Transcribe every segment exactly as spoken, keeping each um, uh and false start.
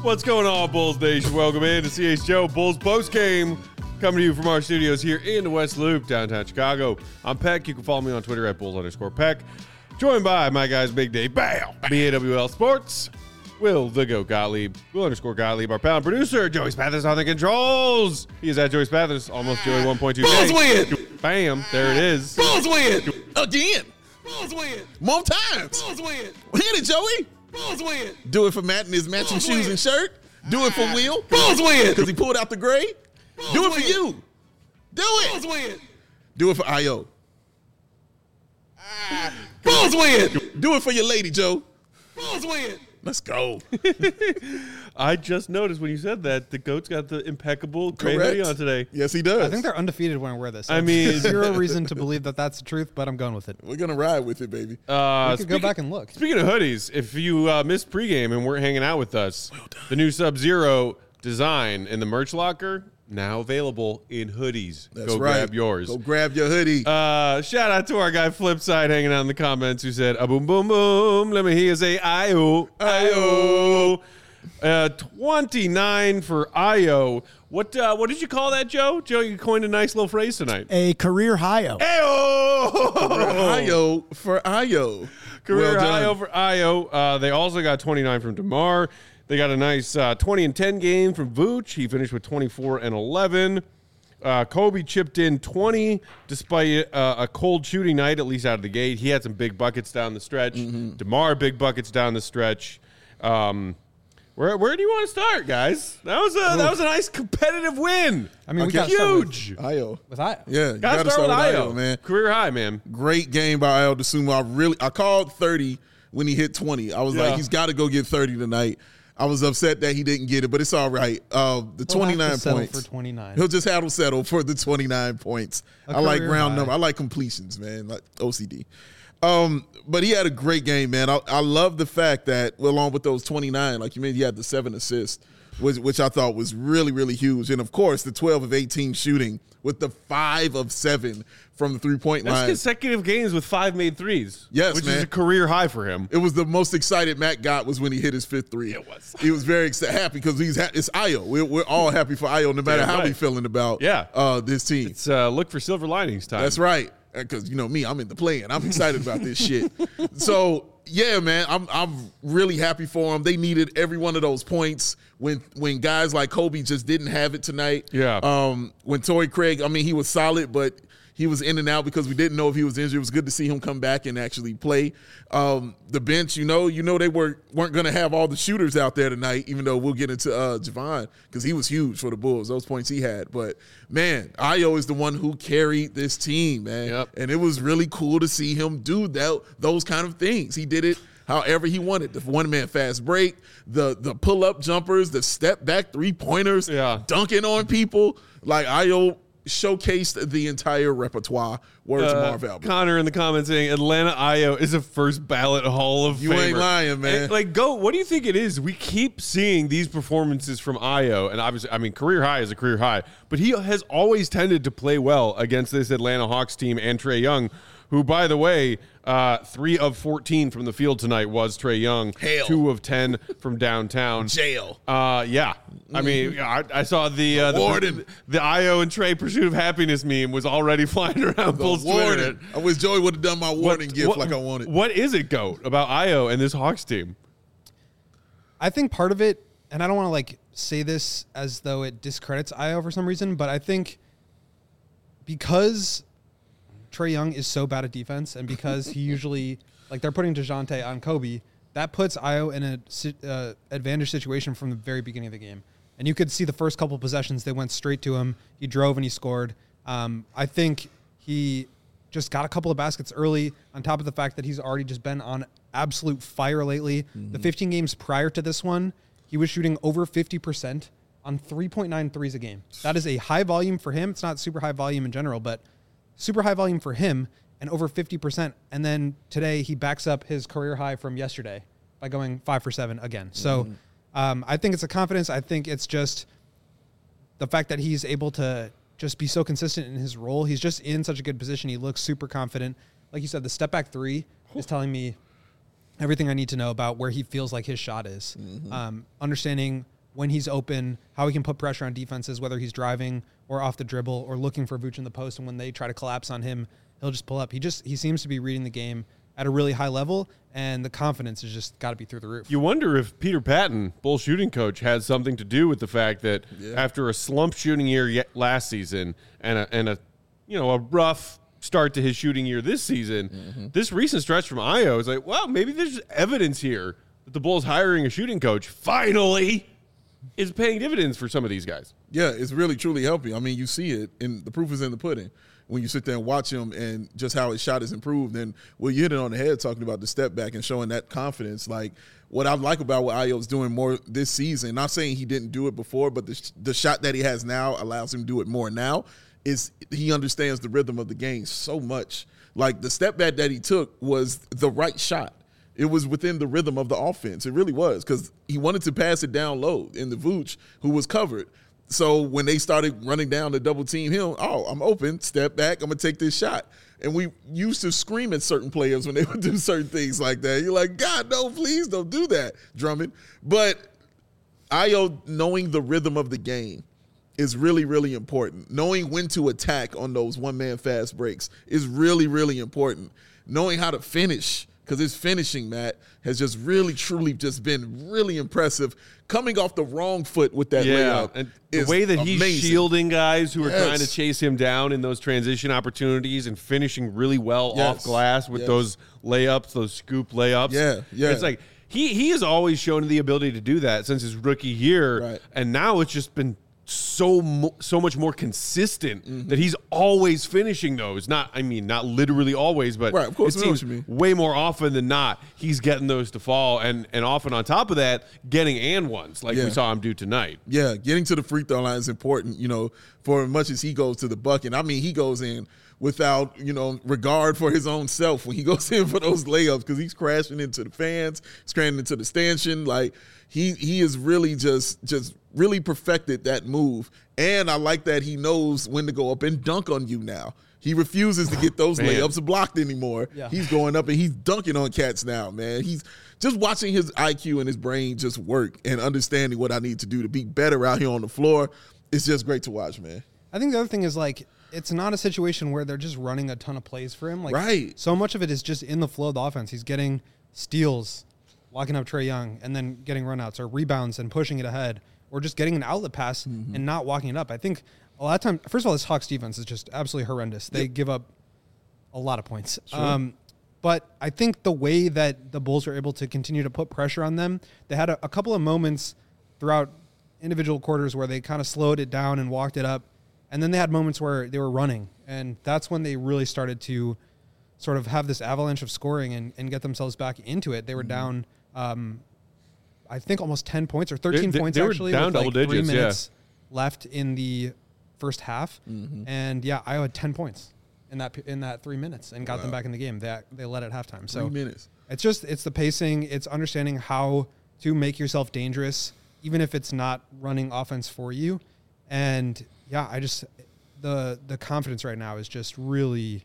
What's going on, Bulls Nation? Welcome in to C H Joe Bulls Post Game, coming to you from our studios here in the West Loop, downtown Chicago. I'm Peck. You can follow me on Twitter at Bulls underscore Peck. Joined by my guys, Big Dave, bam, B A W L Sports, Will the Goat Gottlieb, Will underscore Gottlieb, our pound producer, Joey Spathis on the controls. He is at Joey Spathis, almost Joey one point two K. Bulls win. Bam, there it is. Bulls win. Again. Bulls win. More times. Bulls win. Hit it, Joey. Bulls win. Do it for Matt in his matching Bulls shoes win. And shirt. Do it for Will. Bulls win. Because he pulled out the gray. Bulls Do it win. For you. Do it. Bulls win. Do it for I O. Ah. Bulls win. Do it for your lady, Joe. Bulls win. Let's go. I just noticed when you said that the Goat's got the impeccable gray hoodie on today. Yes, he does. I think they're undefeated when I wear this. I mean, zero reason to believe that that's the truth, but I'm going with it. We're going to ride with it, baby. Uh, we could go back and look. Speaking of hoodies, if you uh, missed pregame and weren't hanging out with us, well the new Sub-Zero design in the merch locker, now available in hoodies. That's Go right. grab yours. Go grab your hoodie. Uh, shout out to our guy Flipside hanging out in the comments who said, a boom, boom, boom. Let me hear you say, I-O, I-O. Uh, twenty-nine for I O. What uh, what did you call that, Joe? Joe, you coined a nice little phrase tonight. A career high-o. I O for I O. Career well high over I O. Uh, they also got twenty-nine from DeMar. They got a nice uh, twenty and ten game from Vooch. He finished with twenty-four and eleven. Uh, Kobe chipped in twenty despite uh, a cold shooting night, at least out of the gate. He had some big buckets down the stretch. Mm-hmm. DeMar, big buckets down the stretch. Um, where where do you want to start, guys? That was a Ooh. that was a nice competitive win. I mean, okay. we got huge. I O with I O. Yeah, you gotta, gotta start, start with I O, man. Career high, man. Great game by I O DeSumo. I really I called thirty when he hit twenty. I was yeah. like, he's got to go get thirty tonight. I was upset that he didn't get it, but it's all right. Uh, the He'll twenty-nine points. For twenty-nine. He'll just have to settle for the twenty-nine points. A I like round high. number. I like completions, man. Like O C D. Um, but he had a great game, man. I, I love the fact that, well, along with those twenty-nine, like you mentioned, he had the seven assists, which, which I thought was really, really huge. And, of course, the twelve of eighteen shooting with the five of seven from the three-point That's line. consecutive games with five made threes. Yes, which man. is a career high for him. It was the most excited Matt got was when he hit his fifth three. It was. He was very excited, happy because he's ha- it's I O. We're, we're all happy for I O, no matter Damn how right. we feeling about yeah. uh, this team. It's uh, look for silver linings time. That's right. Because, you know me, I'm in the play, and I'm excited about this shit. So, yeah, man, I'm I'm really happy for them. They needed every one of those points when when guys like Kobe just didn't have it tonight. Yeah. Um, when Torrey Craig, I mean, he was solid, but he was in and out because we didn't know if he was injured. It was good to see him come back and actually play. Um, the bench, you know, you know they were, weren't going to have all the shooters out there tonight, even though we'll get into uh, Javon because he was huge for the Bulls, those points he had. But, man, I O is the one who carried this team, man. Yep. And it was really cool to see him do that, those kind of things. He did it however he wanted. The one-man fast break, the the pull-up jumpers, the step-back three-pointers, yeah. dunking on people. Like, I O showcased the entire repertoire. Words uh, of Marv Albert. Connor in the comments saying Atlanta I O is a first ballot Hall of Famer. You ain't lying, man. And, like, go. What do you think it is? We keep seeing these performances from I O, and obviously, I mean, career high is a career high, but he has always tended to play well against this Atlanta Hawks team and Trae Young, who, by the way, uh, three of fourteen from the field tonight was Trae Young. Hell. Two of ten from downtown. Jail. Uh, yeah. I mean, I, I saw the uh, the, Warden. the I O and Trae Pursuit of Happiness meme was already flying around Bulls Twitter. Warden. I wish Joey would have done my warning What- gift what- like I wanted. What is it, Goat, about I O and this Hawks team? I think part of it, and I don't want to like say this as though it discredits I O for some reason, but I think because Trae Young is so bad at defense and because he usually, like they're putting DeJounte on Kobe, that puts I O in a uh, advantage situation from the very beginning of the game. And you could see the first couple possessions, they went straight to him. He drove and he scored. Um, I think he just got a couple of baskets early on top of the fact that he's already just been on absolute fire lately. Mm-hmm. The fifteen games prior to this one, he was shooting over fifty percent on three point nine threes a game. That is a high volume for him. It's not super high volume in general, but super high volume for him and over fifty percent. And then today he backs up his career high from yesterday by going five for seven again. So mm-hmm. um, I think it's a confidence. I think it's just the fact that he's able to just be so consistent in his role. He's just in such a good position. He looks super confident. Like you said, the step back three is telling me everything I need to know about where he feels like his shot is. Mm-hmm. Um, understanding when he's open, how he can put pressure on defenses, whether he's driving or off the dribble or looking for Vooch in the post. And when they try to collapse on him, he'll just pull up. He just he seems to be reading the game at a really high level, and the confidence has just got to be through the roof. You wonder if Peter Patton, Bulls shooting coach, has something to do with the fact that yeah. after a slump shooting year last season and a, and a you know a rough start to his shooting year this season, mm-hmm. this recent stretch from Ayo is like, well, maybe there's evidence here that the Bulls hiring a shooting coach finally is paying dividends for some of these guys. Yeah, it's really, truly helping. I mean, you see it, and the proof is in the pudding when you sit there and watch him and just how his shot has improved. And well, you hit it on the head talking about the step back and showing that confidence. Like, what I like about what Ayo's doing more this season, not saying he didn't do it before, but the, the shot that he has now allows him to do it more now, is he understands the rhythm of the game so much. Like, the step back that he took was the right shot. It was within the rhythm of the offense. It really was, because he wanted to pass it down low in the Vooch, who was covered. So when they started running down to double team him, oh, I'm open, step back, I'm going to take this shot. And we used to scream at certain players when they would do certain things like that. You're like, God, no, please don't do that, Drummond. But Ayo knowing the rhythm of the game is really, really important. Knowing when to attack on those one-man fast breaks is really, really important. Knowing how to finish, because his finishing, Matt, has just really, truly just been really impressive. Coming off the wrong foot with that yeah, layup and is the way that amazing. He's shielding guys who are Yes. trying to chase him down in those transition opportunities and finishing really well Yes. off glass with Yes. those layups, those scoop layups. Yeah, yeah. It's like he he has always shown the ability to do that since his rookie year, Right. and now it's just been so mo- so much more consistent Mm-hmm. that he's always finishing those. Not, I mean, not literally always, but Right, of course, it I know what seems you mean. way more often than not he's getting those to fall, and and often on top of that, getting and ones like Yeah. we saw him do tonight. Yeah, getting to the free throw line is important, you know, for as much as he goes to the bucket. I mean, he goes in without, you know, regard for his own self when he goes in for those layups, because he's crashing into the fans, he's crashing into the stanchion. Like, he he is really just just really perfected that move. And I like that he knows when to go up and dunk on you now. He refuses to get those Man. layups blocked anymore. Yeah. He's going up and he's dunking on cats now, man. He's just watching his I Q and his brain just work and understanding what I need to do to be better out here on the floor. It's just great to watch, man. I think the other thing is, like, it's not a situation where they're just running a ton of plays for him. Like, Right. so much of it is just in the flow of the offense. He's getting steals, locking up Trae Young, and then getting runouts or rebounds and pushing it ahead, or just getting an outlet pass Mm-hmm. and not walking it up. I think a lot of time, first of all, this Hawks defense is just absolutely horrendous. They Yep. give up a lot of points. Sure. Um, but I think the way that the Bulls were able to continue to put pressure on them, they had a, a couple of moments throughout individual quarters where they kind of slowed it down and walked it up. And then they had moments where they were running. And that's when they really started to sort of have this avalanche of scoring and, and get themselves back into it. They were down, um, I think, almost ten points or thirteen They- they- points, they were actually, down with double like three digits, yeah. minutes left in the first half. Mm-hmm. And, yeah, Iowa had ten points in that in that three minutes and got them Wow. back in the game. They, they led at halftime. So Three minutes. it's just, it's the pacing. It's understanding how to make yourself dangerous, even if it's not running offense for you. And, yeah, I just, the the confidence right now is just really,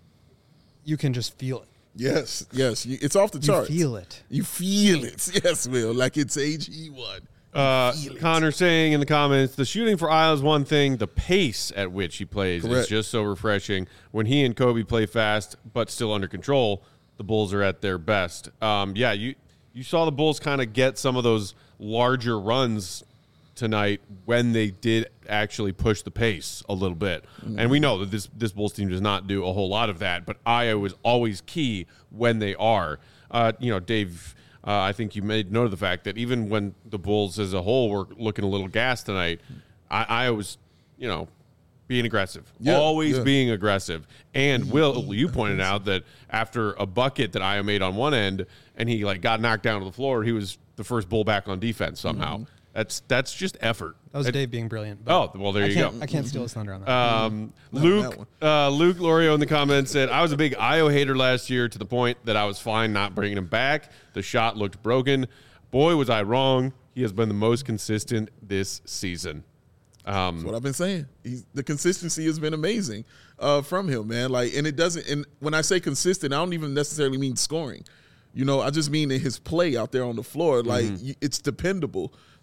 you can just feel it. Yes, yes. You, it's off the You charts. feel it. You feel it. Yes, Will. Like it's H E one. Uh, feel it. Connor saying in the comments, the shooting for Iowa is one thing. The pace at which he plays is Correct. just so refreshing. When he and Kobe play fast but still under control, the Bulls are at their best. Um, yeah, you you saw the Bulls kind of get some of those larger runs tonight when they did actually push the pace a little bit. Mm-hmm. And we know that this this Bulls team does not do a whole lot of that, but Iowa is always key when they are. Uh, you know, Dave, uh, I think you made note of the fact that even when the Bulls as a whole were looking a little gassed tonight, I, Iowa was, you know, being aggressive, Yeah, always yeah. being aggressive. And Will, you pointed out that after a bucket that Iowa made on one end and he like got knocked down to the floor, he was the first Bull back on defense somehow. Mm-hmm. That's that's just effort. That was It- Dave being brilliant. Oh, well, there I you can't, go. I can't steal his thunder on that. Um, Not on that Luke, one. uh, Luke Lorio in the comments said, I was a big Io hater last year to the point that I was fine not bringing him back. The shot looked broken. Boy, was I wrong. He has been the most consistent this season. Um, That's what I've been saying. He's, the consistency has been amazing uh, from him, man. Like, and it doesn't. And when I say consistent, I don't even necessarily mean scoring. You know, I just mean in his play out there on the floor. Like, Mm-hmm. you, it's dependable.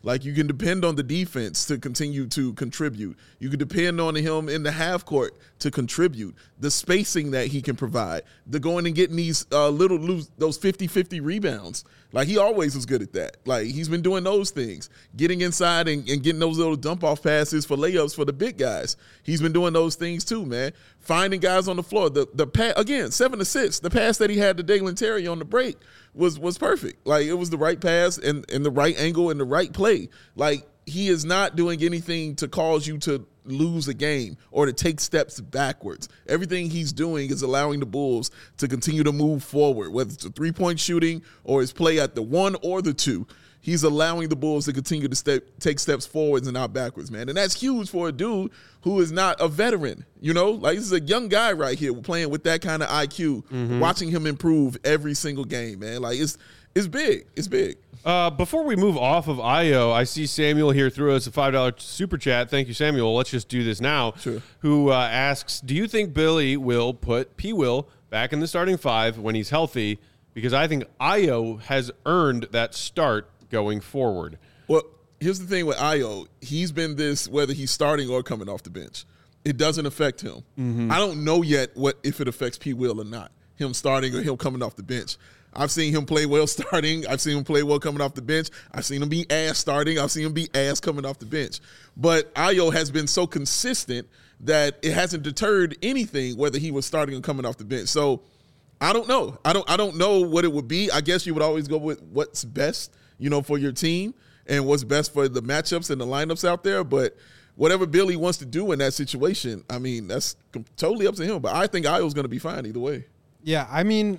Like, you can depend on the defense to continue to contribute. You can depend on him in the half court to contribute. The spacing that he can provide. The going and getting these uh, little loose, those fifty-fifty rebounds. Like, he always was good at that. Like, he's been doing those things. Getting inside and, and getting those little dump-off passes for layups for the big guys. He's been doing those things too, man. Finding guys on the floor. The the pa- Again, seven assists. The pass that he had to Dalen Terry on the break was was perfect. Like, it was the right pass and, and the right angle and the right play. Like, he is not doing anything to cause you to lose a game or to take steps backwards. Everything he's doing is allowing the Bulls to continue to move forward, whether it's a three-point shooting or his play at the one or the two. He's allowing the Bulls to continue to step, take steps forwards and not backwards, man. And that's huge for a dude who is not a veteran, you know? Like, this is a young guy right here playing with that kind of I Q, mm-hmm. watching him improve every single game, man. Like, it's it's big. It's big. Uh, before we move off of Ayo, I see Samuel here threw us a five dollar super chat. Thank you, Samuel. Let's just do this now. Sure. Who uh, asks, do you think Billy will put P. Will back in the starting five when he's healthy? Because I think Ayo has earned that start going forward. Well, here's the thing with Ayo. He's been this whether he's starting or coming off the bench. It doesn't affect him. Mm-hmm. I don't know yet what if it affects P. Will or not, him starting or him coming off the bench. I've seen him play well starting. I've seen him play well coming off the bench. I've seen him be ass starting. I've seen him be ass coming off the bench. But Ayo has been so consistent that it hasn't deterred anything whether he was starting or coming off the bench. So I don't know. I don't I don't know what it would be. I guess you would always go with what's best, you know, for your team and what's best for the matchups and the lineups out there. But whatever Billy wants to do in that situation, I mean, that's totally up to him. But I think Ayo's going to be fine either way. Yeah, I mean,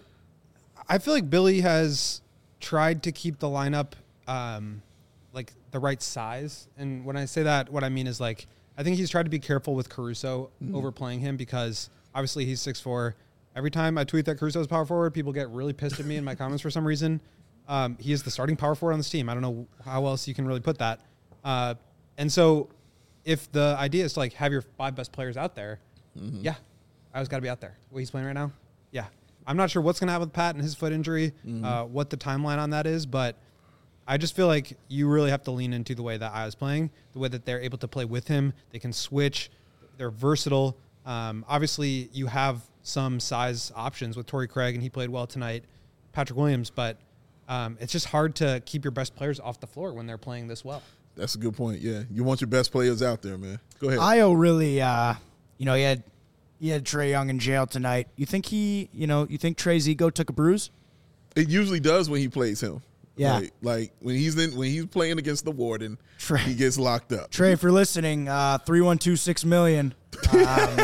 I feel like Billy has tried to keep the lineup um, like the right size. And when I say that, what I mean is, like, I think he's tried to be careful with Caruso mm. overplaying him because obviously he's six foot four. Every time I tweet that Caruso is power forward, people get really pissed at me in my comments for some reason. Um, he is the starting power forward on this team. I don't know how else you can really put that. Uh, and so if the idea is to, like, have your five best players out there, mm-hmm. yeah, I was got to be out there. The way he's playing right now, yeah. I'm not sure what's going to happen with Pat and his foot injury, mm-hmm. uh, what the timeline on that is, but I just feel like you really have to lean into the way that I was playing, the way that they're able to play with him. They can switch. They're versatile. Um, obviously, you have some size options with Torrey Craig, and he played well tonight, Patrick Williams, but um, it's just hard to keep your best players off the floor when they're playing this well. That's a good point, yeah. You want your best players out there, man. Go ahead. Ayo really, uh, you know, he had he had Trae Young in jail tonight. You think he, you know, you think Trae's ego took a bruise? It usually does when he plays him. Yeah. Like, like when he's in, when he's playing against the Warden, Trae, he gets locked up. Trae, if you're listening, uh, three one two six million. Um,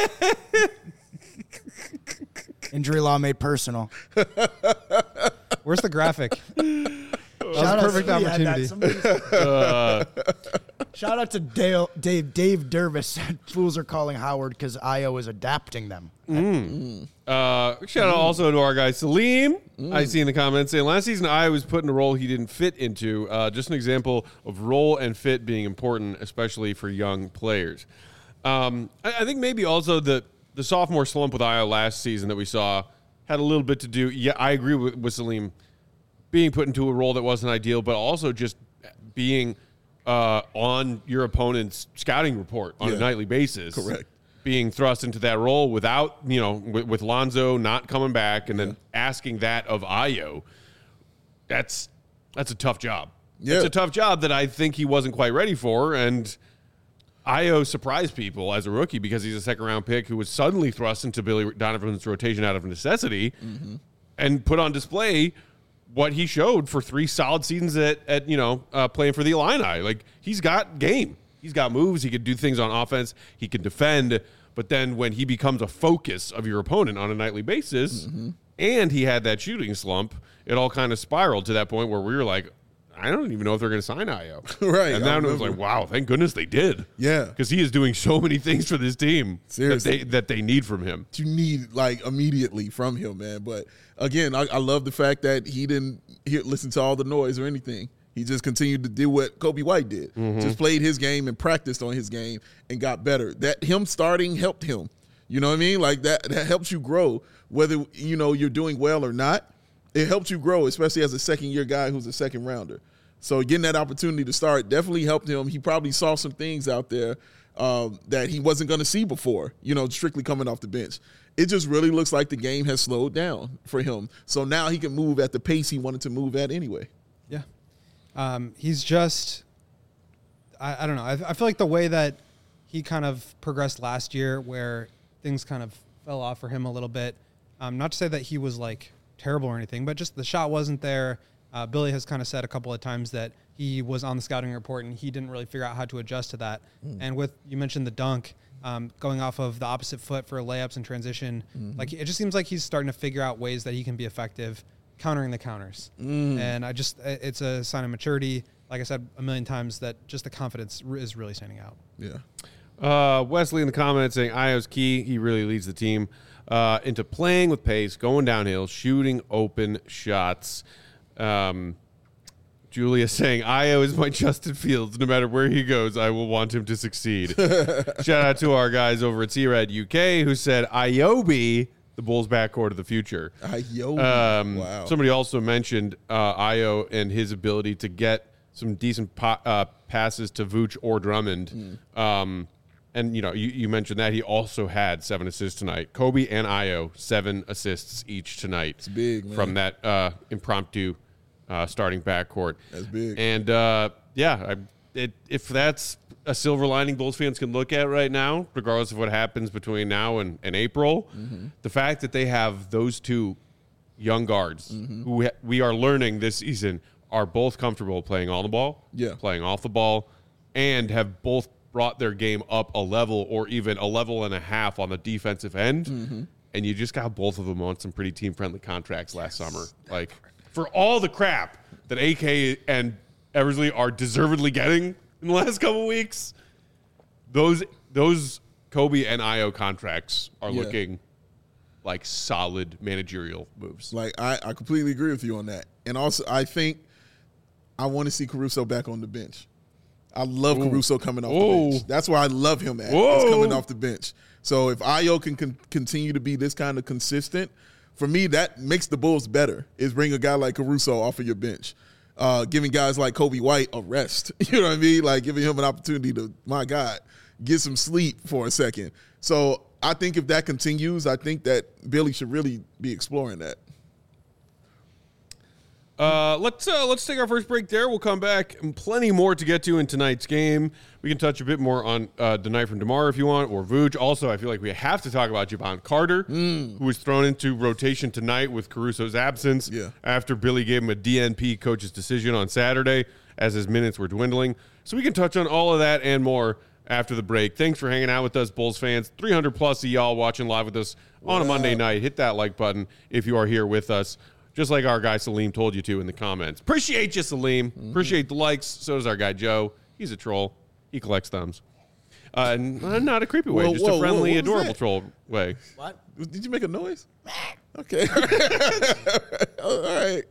injury law made personal. Where's the graphic? That was a perfect opportunity. Uh, Shout out to Dale, Dave Dave Dervis. Fools are calling Howard because Ayo is adapting them. Mm. Uh, shout out also to our guy Salim. Mm. I see in the comments saying last season Ayo was put in a role he didn't fit into. Uh, just an example of role and fit being important, especially for young players. Um, I, I think maybe also the the sophomore slump with Ayo last season that we saw had a little bit to do. Yeah, I agree with, with Salim. Being put into a role that wasn't ideal, but also just being uh, on your opponent's scouting report on yeah. a nightly basis. Correct. Being thrust into that role without, you know, with, with Lonzo not coming back and yeah. then asking that of Ayo, that's that's a tough job. Yeah. It's a tough job that I think he wasn't quite ready for, and Ayo surprised people as a rookie because he's a second-round pick who was suddenly thrust into Billy Donovan's rotation out of necessity mm-hmm. and put on display what he showed for three solid seasons at, at you know, uh, playing for the Illini. Like, he's got game. He's got moves. He can do things on offense. He can defend. But then when he becomes a focus of your opponent on a nightly basis, mm-hmm. and he had that shooting slump, it all kind of spiraled to that point where we were like, I don't even know if they're going to sign Ayo. Right. And then it was like, wow, thank goodness they did. Yeah. Because he is doing so many things for this team Seriously. that they, that they need from him. You need, like, immediately from him, man. But, again, I, I love the fact that he didn't hear, listen to all the noise or anything. He just continued to do what Kobe White did. Mm-hmm. Just played his game and practiced on his game and got better. That him starting helped him. You know what I mean? Like, that, that helps you grow, whether, you know, you're doing well or not. It helps you grow, especially as a second-year guy who's a second-rounder. So getting that opportunity to start definitely helped him. He probably saw some things out there um, that he wasn't going to see before, you know, strictly coming off the bench. It just really looks like the game has slowed down for him. So now he can move at the pace he wanted to move at anyway. Yeah. Um, he's just, I, I don't know. I, I feel like the way that he kind of progressed last year where things kind of fell off for him a little bit. Um, not to say that he was like terrible or anything, but just the shot wasn't there. Uh, Billy has kind of said a couple of times that he was on the scouting report and he didn't really figure out how to adjust to that. Mm. And with, you mentioned the dunk, um, going off of the opposite foot for layups and transition, mm-hmm. like it just seems like he's starting to figure out ways that he can be effective countering the counters. Mm. And I just, it's a sign of maturity. Like I said a million times, that just the confidence is really standing out. Yeah. Uh, Wesley in the comments saying Io's key. He really leads the team uh, into playing with pace, going downhill, shooting open shots. Um, Julia saying Io is my Justin Fields. No matter where he goes, I will want him to succeed. Shout out to our guys over at C-Rad U K who said Iobi, the Bulls backcourt of the future. Iobi. Um, wow. Somebody also mentioned uh, Io and his ability to get some decent po- uh, passes to Vooch or Drummond. Mm. Um, and, you know, you, you mentioned that he also had seven assists tonight. Kobe and Io, seven assists each tonight. It's big, man. From that uh, impromptu uh, starting backcourt. That's big. And, uh, yeah, I, it, if that's a silver lining Bulls fans can look at right now, regardless of what happens between now and, and April, mm-hmm. the fact that they have those two young guards mm-hmm. who ha- we are learning this season are both comfortable playing on the ball, yeah. playing off the ball, and have both brought their game up a level or even a level and a half on the defensive end. Mm-hmm. And you just got both of them on some pretty team-friendly contracts last yes. summer. Like, for all the crap that A K and Eversley are deservedly getting in the last couple weeks, those those Kobe and Io contracts are yeah. looking like solid managerial moves. Like, I, I completely agree with you on that. And also, I think I want to see Caruso back on the bench. I love Ooh. Caruso coming off Ooh. the bench. That's where I love him at. Whoa. He's coming off the bench. So if Io can con- continue to be this kind of consistent, for me, that makes the Bulls better, is bring a guy like Caruso off of your bench. Uh, giving guys like Kobe White a rest. You know what I mean? Like giving him an opportunity to, my God, get some sleep for a second. So I think if that continues, I think that Billy should really be exploring that. Uh, let's uh, let's take our first break there. We'll come back and plenty more to get to in tonight's game. We can touch a bit more on uh, the night from DeMar if you want, or Vooch. Also, I feel like we have to talk about Javon Carter, mm. who was thrown into rotation tonight with Caruso's absence yeah. after Billy gave him a D N P coach's decision on Saturday as his minutes were dwindling. So we can touch on all of that and more after the break. Thanks for hanging out with us, Bulls fans. three hundred plus of y'all watching live with us on a Monday night. Hit that like button if you are here with us. Just like our guy Salim told you to in the comments. Appreciate you, Salim. Mm-hmm. Appreciate the likes. So does our guy Joe. He's a troll. He collects thumbs. Uh, and uh, not a creepy way, whoa, just whoa, a friendly, whoa, adorable troll way. What? Did you make a noise? Okay. All right.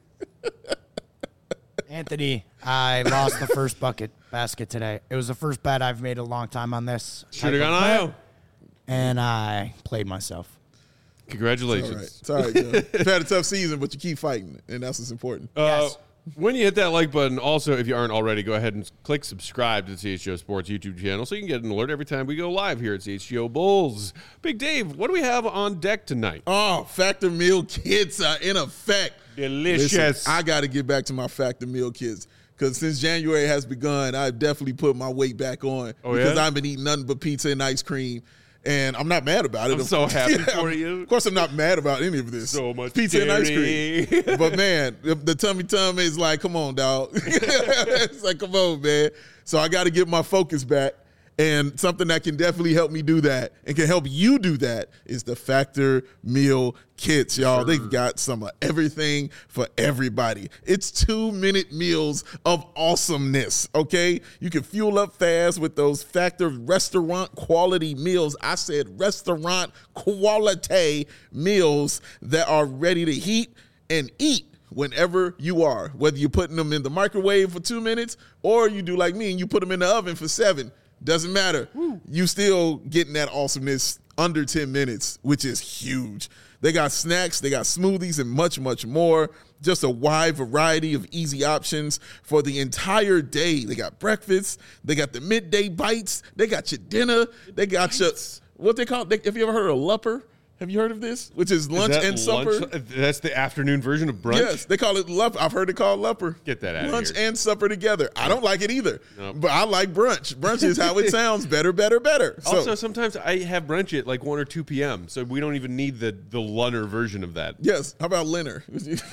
Anthony, I lost the first bucket basket today. It was the first bet I've made in a long time on this. Should have gone Io. And I played myself. Congratulations. It's all right. It's all right, Joe. You've had a tough season, but you keep fighting, and that's what's important. Uh, Yes. When you hit that like button, also, if you aren't already, go ahead and click subscribe to the C H G O Sports YouTube channel so you can get an alert every time we go live here at C H G O Bulls. Big Dave, what do we have on deck tonight? Oh, Factor Meal Kits are in effect. Delicious. Listen, I got to get back to my Factor Meal Kits because since January has begun, I've definitely put my weight back on oh, because yeah? I've been eating nothing but pizza and ice cream. And I'm not mad about it. I'm so happy yeah, for you. Of course, I'm not mad about any of this. So much pizza dairy. and ice cream. But man, the, the tummy tummy is like, come on, dog. It's like, come on, man. So I got to get my focus back. And something that can definitely help me do that and can help you do that is the Factor Meal Kits, y'all. Sure. They've got some of everything for everybody. It's two-minute meals of awesomeness, okay? You can fuel up fast with those Factor restaurant quality meals. I said restaurant quality meals that are ready to heat and eat whenever you are, whether you're putting them in the microwave for two minutes or you do like me and you put them in the oven for seven. Doesn't matter. Woo. You still getting that awesomeness under ten minutes, which is huge. They got snacks, they got smoothies, and much, much more. Just a wide variety of easy options for the entire day. They got breakfast, they got the midday bites, they got your dinner, they got your, what they call, they, have you ever heard of Lupper? Have you heard of this? Which is lunch Is that and supper. lunch- That's the afternoon version of brunch? Yes, they call it Lupper. I've heard it called Lupper. Get that out of Lunch here. and supper together. I don't like it either, Nope. but I like brunch. Brunch is how it sounds. Better, better, better. So, Also, sometimes I have brunch at like one or two p.m., so we don't even need the, the lunner version of that. yes. How about Leonard?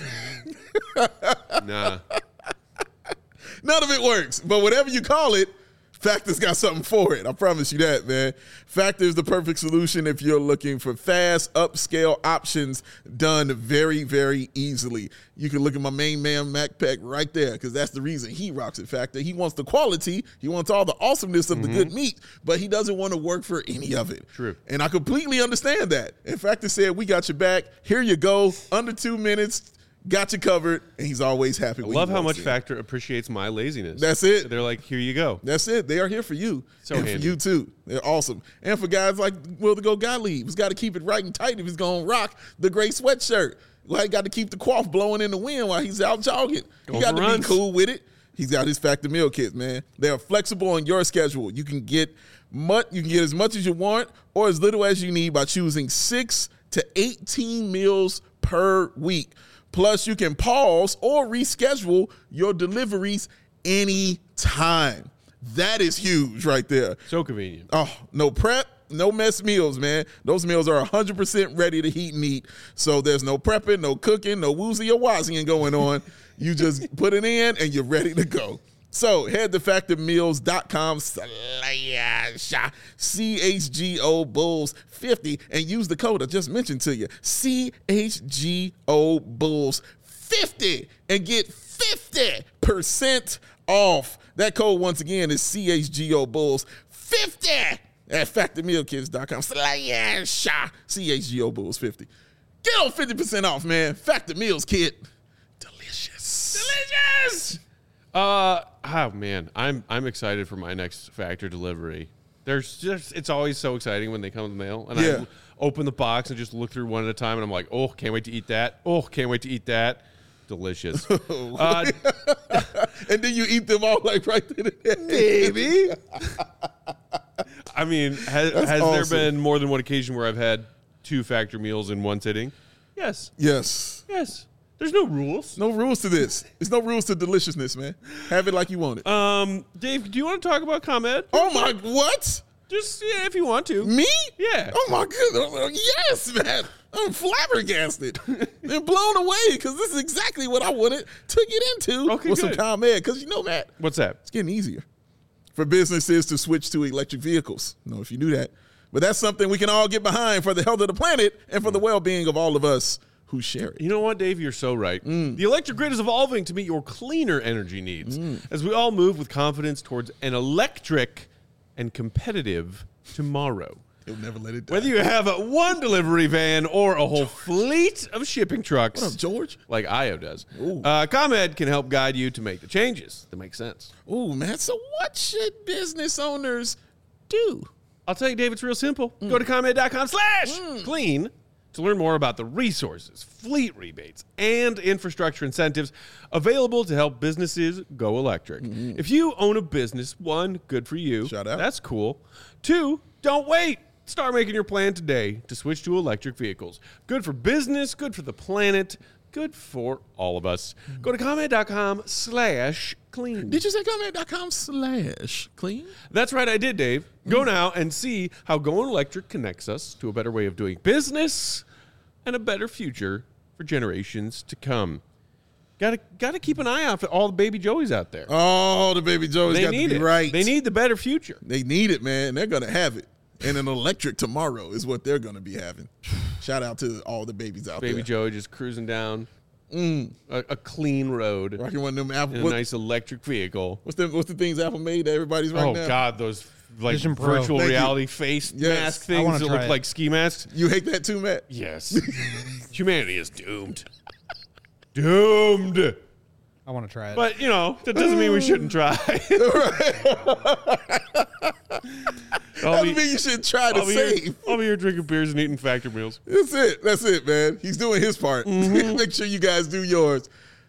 Nah. None of it works, but whatever you call it, Factor's got something for it. I promise you that, man. Factor is the perfect solution if you're looking for fast, upscale options done very, very easily. You can look at my main man, Mac Peck, right there, because that's the reason he rocks at Factor. He wants the quality. He wants all the awesomeness of mm-hmm. the good meat, but he doesn't want to work for any of it. True. And I completely understand that. And Factor said, we got your back. Here you go. Under two minutes. Got you covered, and he's always happy. I when love he how walks much in. Factor appreciates my laziness. That's it. They're like, here you go. That's it. They are here for you. So and handy. for you too. They're awesome. And for guys like Will to Go Gottlieb, he's got to keep it right and tight if he's going to rock the gray sweatshirt. Well, he got to keep the quaff blowing in the wind while he's out jogging. Going He got for to runs. be cool with it. He's got his Factor meal kits, man. They are flexible on your schedule. You can get much, you can get as much as you want or as little as you need by choosing six to eighteen meals per week. Plus, you can pause or reschedule your deliveries anytime. That is huge right there. So convenient. Oh, no prep, no mess meals, man. Those meals are one hundred percent ready to heat and eat. So there's no prepping, no cooking, no woozy or wazzying going on. You just put it in and you're ready to go. So head to factor meals dot com slash C H G O Bulls fifty and use the code I just mentioned to you, C H G O Bulls fifty, and get fifty percent off. That code once again is C H G O Bulls fifty at factor meal kits dot com slash C H G O Bulls fifty. Get on fifty percent off, man. Factor Meals Kit. Delicious. Delicious. Uh oh man, I'm I'm excited for my next Factor delivery. There's just it's always so exciting when they come in the mail, and Yeah. I open the box and just look through one at a time, and I'm like, oh, can't wait to eat that. Oh, can't wait to eat that. Delicious. uh, And then you eat them all like right there. Maybe. I mean, has, That's has awesome. there been more than one occasion where I've had two Factor meals in one sitting? Yes. Yes. Yes. There's no rules. No rules to this. There's no rules to deliciousness, man. Have it like you want it. Um, Dave, do you want to talk about ComEd? Oh my, what? Just yeah, if you want to. Me? Yeah. Oh my goodness. Yes, man. I'm flabbergasted and blown away because this is exactly what I wanted to get into Okay, with good. some ComEd. Because you know, Matt, What's that? it's getting easier for businesses to switch to electric vehicles. I don't know if you knew that. But that's something we can all get behind for the health of the planet and for the well-being of all of us who share it. You know what, Dave? You're so right. The electric grid is evolving to meet your cleaner energy needs as we all move with confidence towards an electric and competitive tomorrow. He'll never let it die. Whether you have a one delivery van or a whole fleet of shipping trucks, What up, George? like I O does, Ooh. uh, ComEd can help guide you to make the changes that make sense. Ooh, man. So what should business owners do? I'll tell you, Dave, it's real simple. Go to ComEd dot com slash clean to learn more about the resources, fleet rebates, and infrastructure incentives available to help businesses go electric. If you own a business, one, good for you. Shout out. That's cool. Two, don't wait. Start making your plan today to switch to electric vehicles. Good for business, good for the planet, good for all of us. Go to ComEd dot com slash clean. Did you say ComEd dot com slash clean? That's right, I did, Dave. Go now and see how going electric connects us to a better way of doing business and a better future for generations to come. Got to got to keep an eye out for all the baby Joeys out there. Oh, the baby Joe's they got need to be it. right. They need the better future. They need it, man. They're going to have it. And an electric tomorrow is what they're going to be having. Shout out to all the babies out Baby there. Joey just cruising down a, a clean road Rocking one of them Apple. in a What, nice electric vehicle. what's, the, what's the things Apple made that everybody's right Oh, now? God, those like Vision Pro. virtual Thank you. reality face Yes. mask I things wanna that try look it. like ski masks. You hate that too, Matt? Yes. Humanity is doomed. Doomed. I want to try it. But, you know, that doesn't mean we shouldn't try. I'll Doesn't be, mean you should try to I'll be save. Here, I'll be here drinking beers and eating factor meals. That's it. That's it, man. He's doing his part. Mm-hmm. Make sure you guys do yours.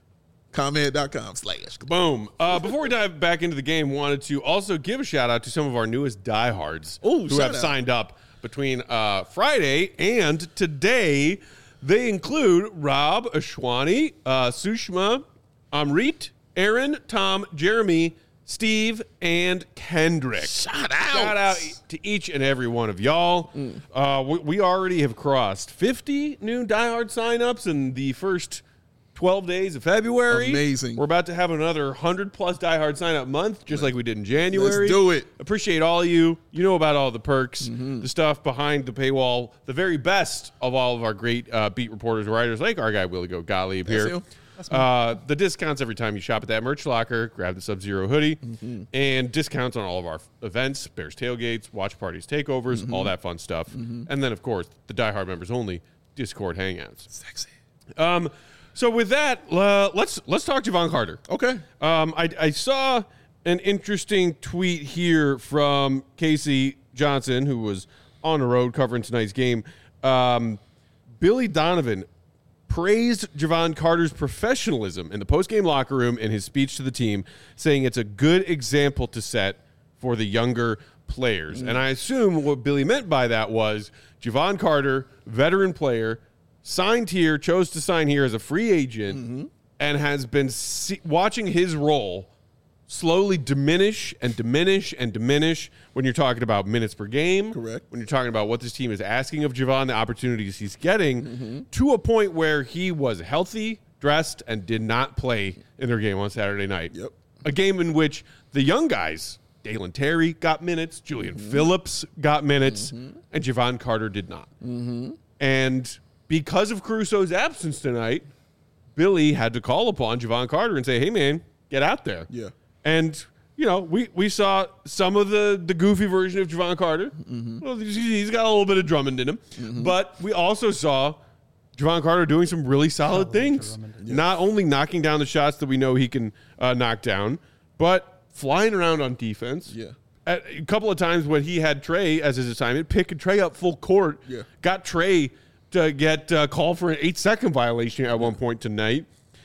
ComEd.com slash. Boom. Uh, before we dive back into the game, wanted to also give a shout out to some of our newest diehards Ooh, who shout have out. signed up between uh, Friday and today. They include Rob, Ashwani, uh, Sushma, Amrit, Aaron, Tom, Jeremy, Steve, and Kendrick. Shout out. Shout out to each and every one of y'all. Mm. Uh, we, we already have crossed fifty new diehard signups in the first twelve days of February. Amazing. We're about to have another one hundred plus diehard sign up month, just like we did in January. Let's do it. Appreciate all of you. You know about all the perks, Mm-hmm. the stuff behind the paywall, the very best of all of our great uh, beat reporters, writers, like our guy Willie Go Gottlieb That's here. him. Uh, the discounts every time you shop at that merch locker. Grab the Sub-Zero hoodie. Mm-hmm. And discounts on all of our f- events, Bears tailgates, watch parties, takeovers, Mm-hmm. all that fun stuff. And then, of course, the diehard members only Discord hangouts. Sexy. Um, so with that, uh, let's let's talk Javon Carter. Okay. Um, I, I saw an interesting tweet here from Casey Johnson, who was on the road covering tonight's game. Um, Billy Donovan praised Javon Carter's professionalism in the postgame locker room in his speech to the team, saying it's a good example to set for the younger players. And I assume what Billy meant by that was Javon Carter, veteran player, signed here, chose to sign here as a free agent, Mm-hmm. and has been see- watching his role slowly diminish and diminish and diminish when you're talking about minutes per game. Correct. When you're talking about what this team is asking of Javon, the opportunities he's getting, Mm-hmm. to a point where he was healthy, dressed, and did not play in their game on Saturday night. Yep. A game in which the young guys, Dalen Terry got minutes, Julian Mm-hmm. Phillips got minutes, and Javon Carter did not. Mm-hmm. And because of Caruso's absence tonight, Billy had to call upon Javon Carter and say, hey, man, get out there. Yeah. And, you know, we, we saw some of the, the goofy version of Javon Carter. Mm-hmm. Well, he's- he's got a little bit of Drummond in him. But we also saw Javon Carter doing some really solid things. Not only knocking down the shots that we know he can uh, knock down, but flying around on defense. Yeah. At a couple of times when he had Trey as his assignment, picking Trey up full court, Yeah. got Trey to get uh, called for an eight-second violation at one point tonight.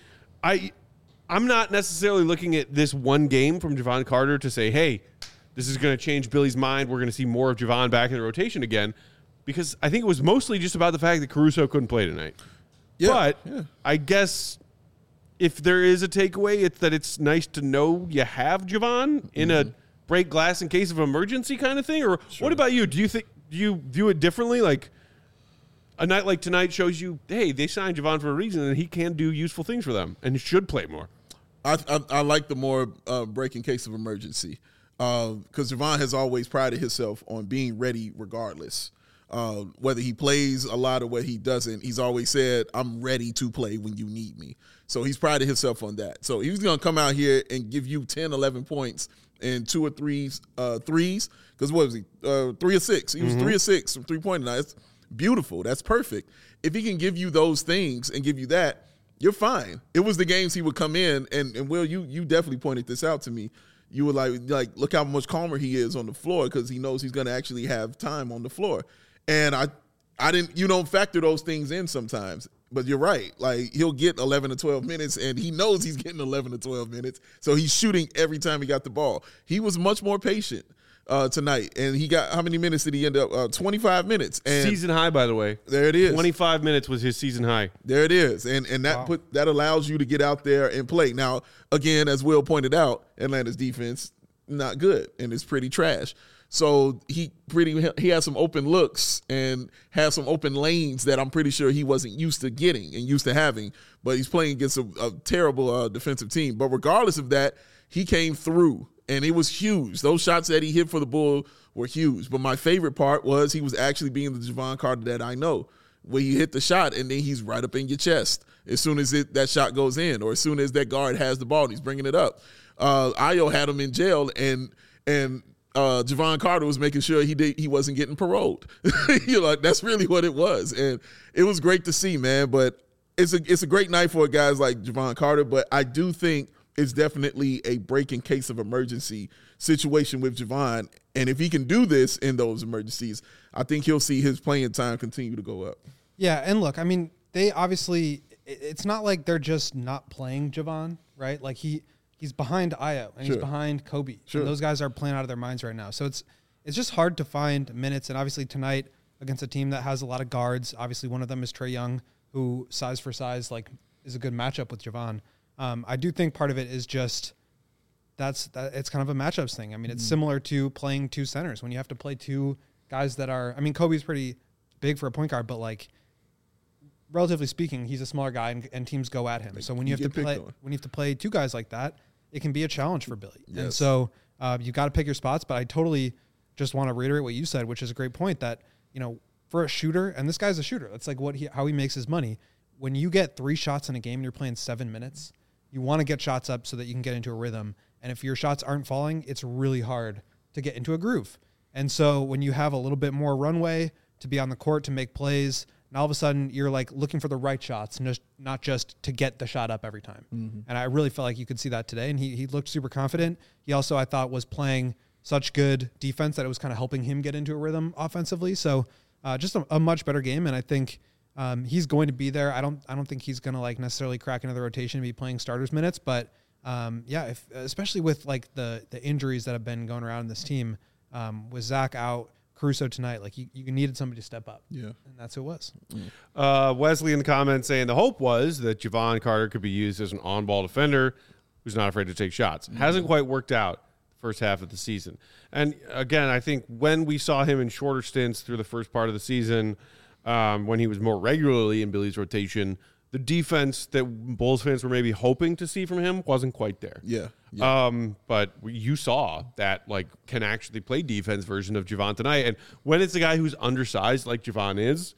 I, I'm not necessarily looking at this one game from Javon Carter to say, hey, this is going to change Billy's mind. We're going to see more of Javon back in the rotation again, because I think it was mostly just about the fact that Caruso couldn't play tonight. Yeah, But yeah. I guess if there is a takeaway, it's that it's nice to know you have Javon in Mm-hmm. a break glass in case of emergency kind of thing. Or what about you? Do you think do you view it differently? Like a night like tonight shows you, hey, they signed Javon for a reason, and he can do useful things for them, and he should play more. I, I, I like the more uh, break in case of emergency because Javon has always prided himself on being ready regardless. Uh, whether he plays a lot or what he doesn't, he's always said, I'm ready to play when you need me. So he's prided himself on that. So he's going to come out here and give you ten, eleven points and two or three uh, threes. Because what was he? Uh, three or six. He was three or six from three-point line. That's beautiful. That's perfect. If he can give you those things and give you that, you're fine. It was the games he would come in, and, and Will, you you definitely pointed this out to me. You were like, like look how much calmer he is on the floor because he knows he's going to actually have time on the floor. And I I didn't, you don't factor those things in sometimes. But you're right. Like, he'll get eleven to twelve minutes, and he knows he's getting eleven to twelve minutes. So he's shooting every time he got the ball. He was much more patient uh, tonight. And he got, how many minutes did he end up? Uh, twenty-five minutes. And Season high, by the way. there it is. twenty-five minutes was his season high. There it is. And and that Wow. put that allows you to get out there and play. Now, again, as Will pointed out, Atlanta's defense, not good, and it's pretty trash. So he pretty he has some open looks and has some open lanes that I'm pretty sure he wasn't used to getting and used to having. But he's playing against a, a terrible uh, defensive team. But regardless of that, he came through, and it was huge. Those shots that he hit for the Bull were huge. But my favorite part was he was actually being the Javon Carter that I know, where you hit the shot and then he's right up in your chest as soon as it, that shot goes in, or as soon as that guard has the ball and he's bringing it up. Uh, Ayo had him in jail, and and uh, Javon Carter was making sure he did he wasn't getting paroled. You know, that's really what it was, and it was great to see, man. But it's a it's a great night for guys like Javon Carter. But I do think is definitely a break in case of emergency situation with Javon. And if he can do this in those emergencies, I think he'll see his playing time continue to go up. Yeah, and look, I mean, they obviously it- it's not like they're just not playing Javon, right? Like he he's behind Ayo and Sure. he's behind Kobe. Sure. And those guys are playing out of their minds right now. So it's it's just hard to find minutes. And obviously tonight against a team that has a lot of guards, obviously one of them is Trae Young, who size for size like is a good matchup with Javon. Um, I do think part of it is just that's that it's kind of a matchups thing. I mean, it's Mm. similar to playing two centers when you have to play two guys that are. I mean, Kobe's pretty big for a point guard, but like relatively speaking, he's a smaller guy, and, and teams go at him. So when you, you have to get play picked on. when you have to play two guys like that, it can be a challenge for Billy. And Yes. so uh, you got to pick your spots. But I totally just want to reiterate what you said, which is a great point. That you know, for a shooter, and this guy's a shooter. That's like what he how he makes his money. When you get three shots in a game and you're playing seven minutes, you want to get shots up so that you can get into a rhythm. And if your shots aren't falling, it's really hard to get into a groove. And so when you have a little bit more runway to be on the court to make plays, and all of a sudden you're like looking for the right shots, and just, not just to get the shot up every time. Mm-hmm. And I really felt like you could see that today. And he he looked super confident. He also, I thought, was playing such good defense that it was kind of helping him get into a rhythm offensively. So uh, just a, a much better game. And I think um, he's going to be there. I don't I don't think he's going to like necessarily crack into the rotation and be playing starters minutes, but Um, yeah, if, especially with like the the injuries that have been going around in this team, um, with Zach out, Caruso tonight, like you, you needed somebody to step up. Yeah. And that's who it was. Uh, Wesley in the comments saying the hope was that Javon Carter could be used as an on-ball defender who's not afraid to take shots. Mm-hmm. Hasn't quite worked out the first half of the season. And again, I think when we saw him in shorter stints through the first part of the season, um, when he was more regularly in Billy's rotation, the defense that Bulls fans were maybe hoping to see from him wasn't quite there. Yeah. yeah. Um, but you saw that like can actually play defense version of Javon tonight. And when it's a guy who's undersized like Javon is,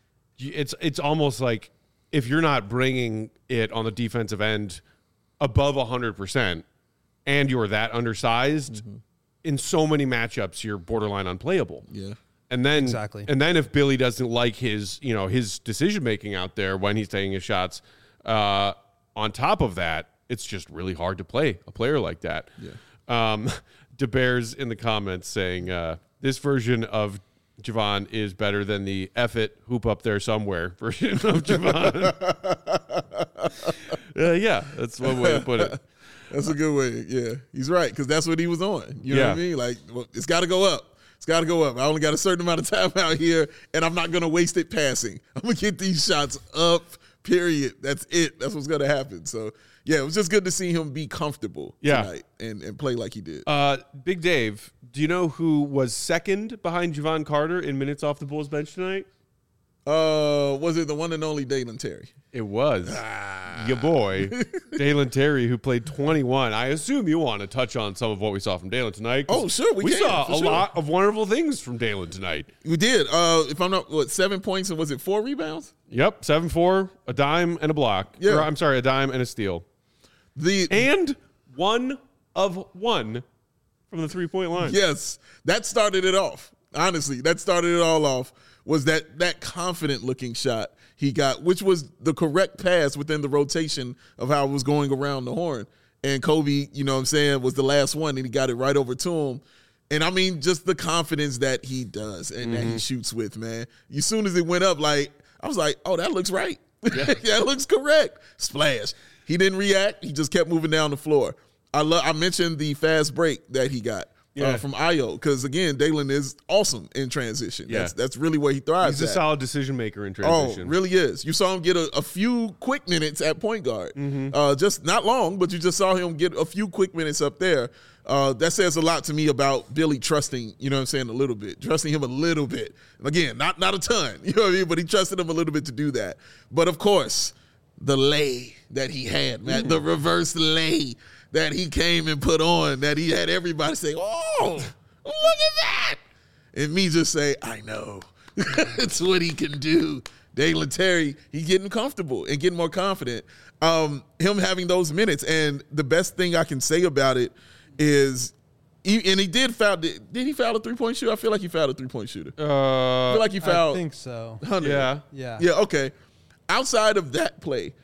it's it's almost like if you're not bringing it on the defensive end above one hundred percent and you're that undersized, mm-hmm. in so many matchups you're borderline unplayable. Yeah. And then, Exactly. and then if Billy doesn't like his, you know, his decision making out there when he's taking his shots, uh, on top of that, it's just really hard to play a player like that. Yeah. Um, DeBears in the comments saying uh, this version of Javon is better than the F it hoop up there somewhere version of Javon. uh, yeah, that's one way to put it. That's a good way. Yeah, he's right because that's what he was on. You know Yeah. what I mean? Like, well, it's got to go up. It's got to go up. I only got a certain amount of time out here, and I'm not going to waste it passing. I'm going to get these shots up, period. That's it. That's what's going to happen. So, yeah, it was just good to see him be comfortable Yeah. tonight and, and play like he did. Uh, Big Dave, do you know who was second behind Javon Carter in minutes off the Bulls bench tonight? Uh, was it the one and only Dalen Terry? It was your boy, Dalen Terry, who played twenty-one. I assume you want to touch on some of what we saw from Dalen tonight. 'Cause Oh, sure, we We can, saw for a sure. lot of wonderful things from Dalen tonight. We did. Uh, if I'm not, what, seven points and was it four rebounds? Yep, seven four, a dime and a block. Yeah. Or, I'm sorry, a dime and a steal. The And one of one from the three-point line. Yes, that started it off. Honestly, that started it all off. Was that that confident looking shot he got, which was the correct pass within the rotation of how it was going around the horn. And Kobe, you know what I'm saying, was the last one, and he got it right over to him. And I mean, just the confidence that he does and Mm-hmm. that he shoots with, man. As soon as it went up, like, I was like, oh, that looks right. Yeah, that looks correct. Splash. He didn't react. He just kept moving down the floor. I love. I mentioned the fast break that he got. Yeah. Uh, from Ayo, because again, Dalen is awesome in transition. Yeah. That's that's really where he thrives. He's a at. solid decision maker in Oh, transition. really is. You saw him get a, a few quick minutes at point guard. Mm-hmm. Uh, just not long, but you just saw him get a few quick minutes up there. Uh, that says a lot to me about Billy trusting, you know what I'm saying, a little bit. Trusting him a little bit. Again, not not a ton, you know what I mean? But he trusted him a little bit to do that. But of course, the lay that he had, man, the reverse lay that he came and put on, that he had everybody say, oh, look at that. And me just say, I know. It's what he can do. Dalen Terry, he getting comfortable and getting more confident. Um, him having those minutes. And the best thing I can say about it is, he, and he did foul, did, did he foul a three-point shooter? I feel like he fouled a three-point shooter. I Uh, feel like he fouled. I think so. one hundred. yeah. Yeah. Yeah, okay. Outside of that play,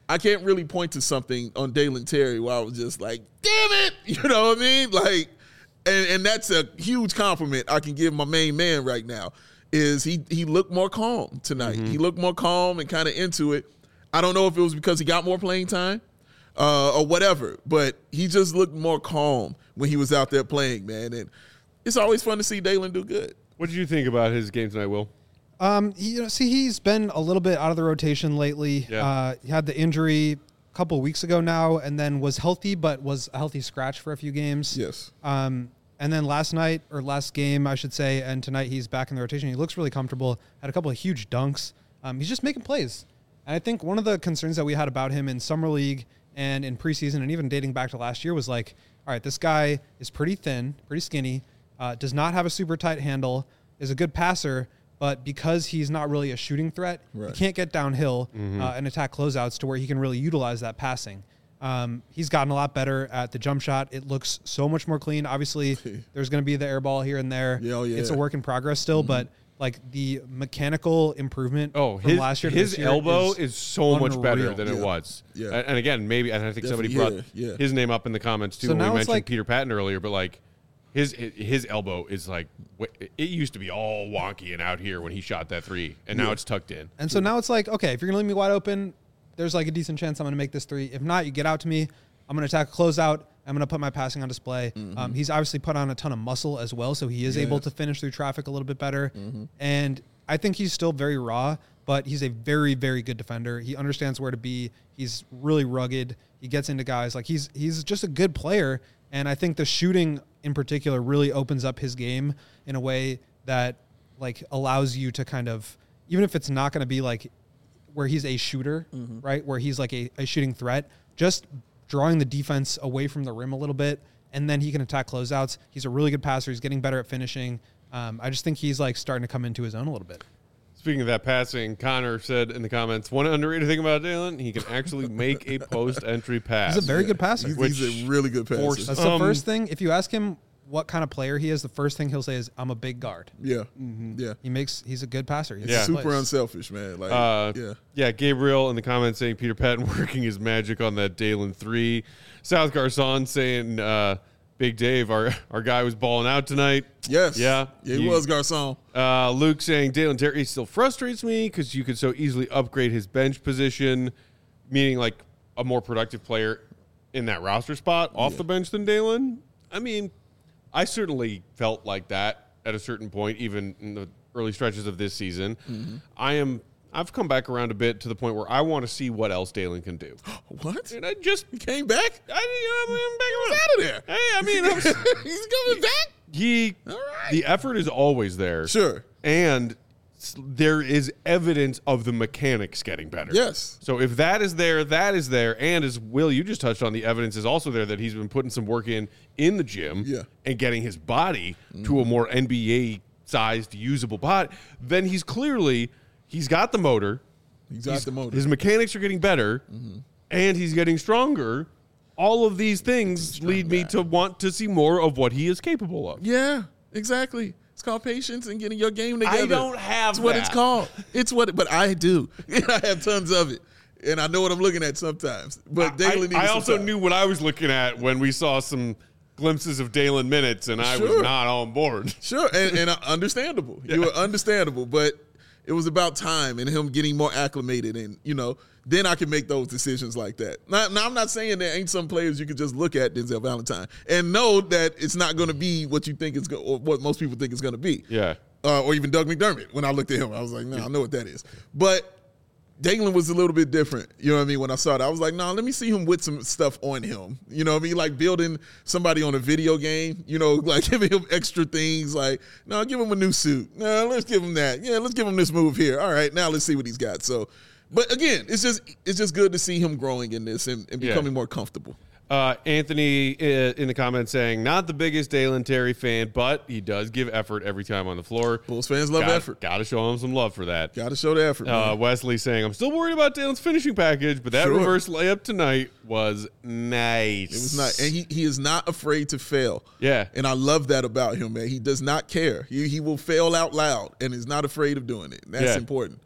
I can't really point to something on Dalen Terry where I was just like, damn it, you know what I mean? Like, and, and that's a huge compliment I can give my main man right now. Is he he looked more calm tonight? Mm-hmm. He looked more calm and kind of into it. I don't know if it was because he got more playing time uh, or whatever, but he just looked more calm when he was out there playing, man. And it's always fun to see Dalen do good. What did you think about his game tonight, Will? Um, he, you know, see, he's been a little bit out of the rotation lately. Yeah. Uh, he had the injury a couple of weeks ago now, and then was healthy, but was a healthy scratch for a few games. Yes. Um, and then last night, or last game, I should say, and tonight he's back in the rotation. He looks really comfortable. Had a couple of huge dunks. Um, he's just making plays. And I think one of the concerns that we had about him in summer league and in preseason, and even dating back to last year, was like, all right, this guy is pretty thin, pretty skinny, uh, does not have a super tight handle, is a good passer, but because he's not really a shooting threat, right. he can't get downhill Mm-hmm. uh, and attack closeouts to where he can really utilize that passing. Um, he's gotten a lot better at the jump shot. It looks so much more clean. Obviously, there's going to be the air ball here and there. Yeah, oh, yeah. It's a work in progress still, mm-hmm. but like the mechanical improvement Oh, from his, last year to his this year elbow is, is so much better unreal. than Yeah. it was. Yeah. And, and again, maybe, and I think somebody brought Definitely, yeah, yeah. his name up in the comments too So when we now it's mentioned like- Peter Patton earlier, but like his his elbow is like, it used to be all wonky and out here when he shot that three, and now Yeah. it's tucked in. And so now it's like, okay, if you're going to leave me wide open, there's like a decent chance I'm going to make this three. If not, you get out to me. I'm going to attack a closeout. I'm going to put my passing on display. Mm-hmm. Um, he's obviously put on a ton of muscle as well, so he is Yes. able to finish through traffic a little bit better. Mm-hmm. And I think he's still very raw, but he's a very, very good defender. He understands where to be. He's really rugged. He gets into guys. Like he's he's just a good player. And I think the shooting in particular really opens up his game in a way that like allows you to kind of, even if it's not going to be like where he's a shooter, mm-hmm. right? Where he's like a, a shooting threat, just drawing the defense away from the rim a little bit, and then he can attack closeouts. He's a really good passer. He's getting better at finishing. Um, I just think he's like starting to come into his own a little bit. Speaking of that passing, Connor said in the comments, one underrated thing about Dalen, he can actually make a post-entry pass. He's a very good passer. He's, Which he's a really good passer. forced- That's the Um, first thing. If you ask him what kind of player he is, the first thing he'll say is, "I'm a big guard." Yeah, Mm-hmm. yeah. He makes. He's a good passer. He Yeah. Super plays. unselfish, man. Like, Uh, yeah. yeah, Gabriel in the comments saying Peter Patton working his magic on that Dalen three. South Garcon saying uh, Big Dave, our our guy was balling out tonight. Yes. Yeah. Yeah, he You- was Garcon. Uh, Luke saying Dalen Terry still frustrates me because you could so easily upgrade his bench position, meaning like a more productive player in that roster spot off Yeah. the bench than Dalen. I mean, I certainly felt like that at a certain point, even in the early stretches of this season. Mm-hmm. I am. I've come back around a bit to the point where I want to see what else Dalen can do. What? And I just He came back? I, I'm back He's around. out of there. Hey, I mean, I was, He's coming back? he All right. the effort is always there. Sure. And s- there is evidence of the mechanics getting better. Yes. So if that is there, that is there. And as Will, you just touched on, the evidence is also there that he's been putting some work in in the gym Yeah. and getting his body to a more N B A-sized, usable body. Then he's clearly, he's got the motor. He's got the motor. His mechanics are getting better, and he's getting stronger. All of these things lead me to want to see more of what he is capable of. Yeah, exactly. It's called patience and getting your game together. I don't have It's what that. it's called. It's what, but I do. I have tons of it, and I know what I'm looking at sometimes. But Dalen I, needs I some also time. knew what I was looking at when we saw some glimpses of Dalen minutes, and I was Sure. not on board. Sure, and, and uh, understandable. You were understandable, but it was about time and him getting more acclimated, and you know, then I can make those decisions like that. Now, now I'm not saying there ain't some players you could just look at Denzel Valentine and know that it's not going to be what you think it's go- or what most people think it's going to be. Yeah. Uh, or even Doug McDermott. When I looked at him, I was like, no, nah, I know what that is. But Dalen was a little bit different. You know what I mean? When I saw it, I was like, no, nah, let me see him with some stuff on him. You know what I mean? Like building somebody on a video game, you know, like giving him extra things like, no, give him a new suit. No, let's give him that. Yeah, let's give him this move here. All right, now let's see what he's got. So, but again, it's just it's just good to see him growing in this and, and Yeah. becoming more comfortable. Uh, Anthony uh, in the comments saying, not the biggest Dalen Terry fan, but he does give effort every time on the floor. Bulls fans love Got- effort. Got to show him some love for that. Got to show the effort. Uh, man. Wesley saying, I'm still worried about Dalen's finishing package, but that Sure. reverse layup tonight was nice. It was not, and he, he is not afraid to fail. Yeah. And I love that about him, man. He does not care. He he will fail out loud and is not afraid of doing it. And that's Yeah. important.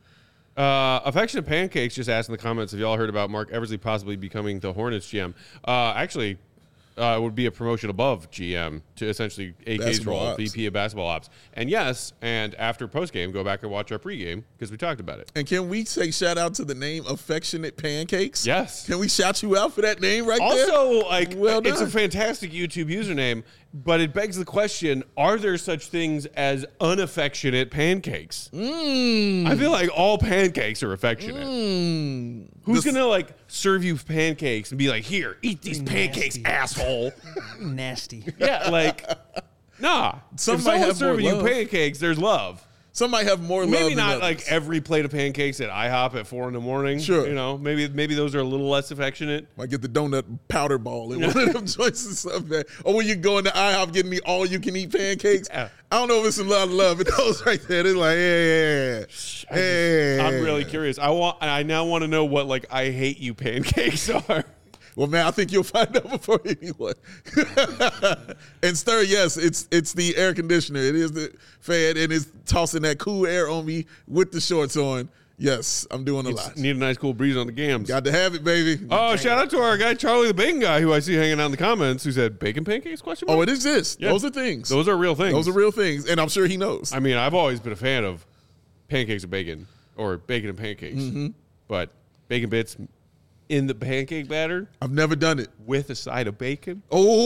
Uh, Affectionate Pancakes just asked in the comments if y'all heard about Mark Eversley possibly becoming the Hornets G M. Uh, actually, uh, it would be a promotion above G M to essentially A K's Basketball role, ops. V P of basketball ops. And yes, and after postgame, go back and watch our pregame because we talked about it. And can we say shout out to the name Affectionate Pancakes? Yes. Can we shout you out for that name right there? Also, like, Well it's a done. fantastic YouTube username, but it begs the question, are there such things as unaffectionate pancakes? Mm. I feel like all pancakes are affectionate. Mm. Who's The- going to, like, serve you pancakes and be like, here, eat these pancakes, Nasty. asshole? Nasty. Yeah, like, nah. Some if might someone's have more serving you love. pancakes, there's love. Some might have more love Maybe than not others. like every plate of pancakes at IHOP at four in the morning. Sure. You know, maybe maybe those are a little less affectionate. Might get the donut powder ball in one of them choices. Something. Or when you go into IHOP getting the all you can eat pancakes. Yeah. I don't know if it's a lot of love, but those right there, they're like, yeah, yeah, yeah. I'm really curious. I want. I now want to know what like I hate you pancakes are. Well, man, I think you'll find out before anyone. And stir, yes, it's it's the air conditioner. It is the fan, and it's tossing that cool air on me with the shorts on. Yes, I'm doing a lot. Need a nice cool breeze on the gams. Got to have it, baby. Oh, shout out to our guy Charlie the Bacon Guy, who I see hanging out in the comments, who said bacon pancakes? Question mark? Oh, it exists. Yeah. Those are things. Those are real things. Those are real things, and I'm sure he knows. I mean, I've always been a fan of pancakes and bacon, or bacon and pancakes, Mm-hmm. but bacon bits in the pancake batter I've never done it. with a side of bacon.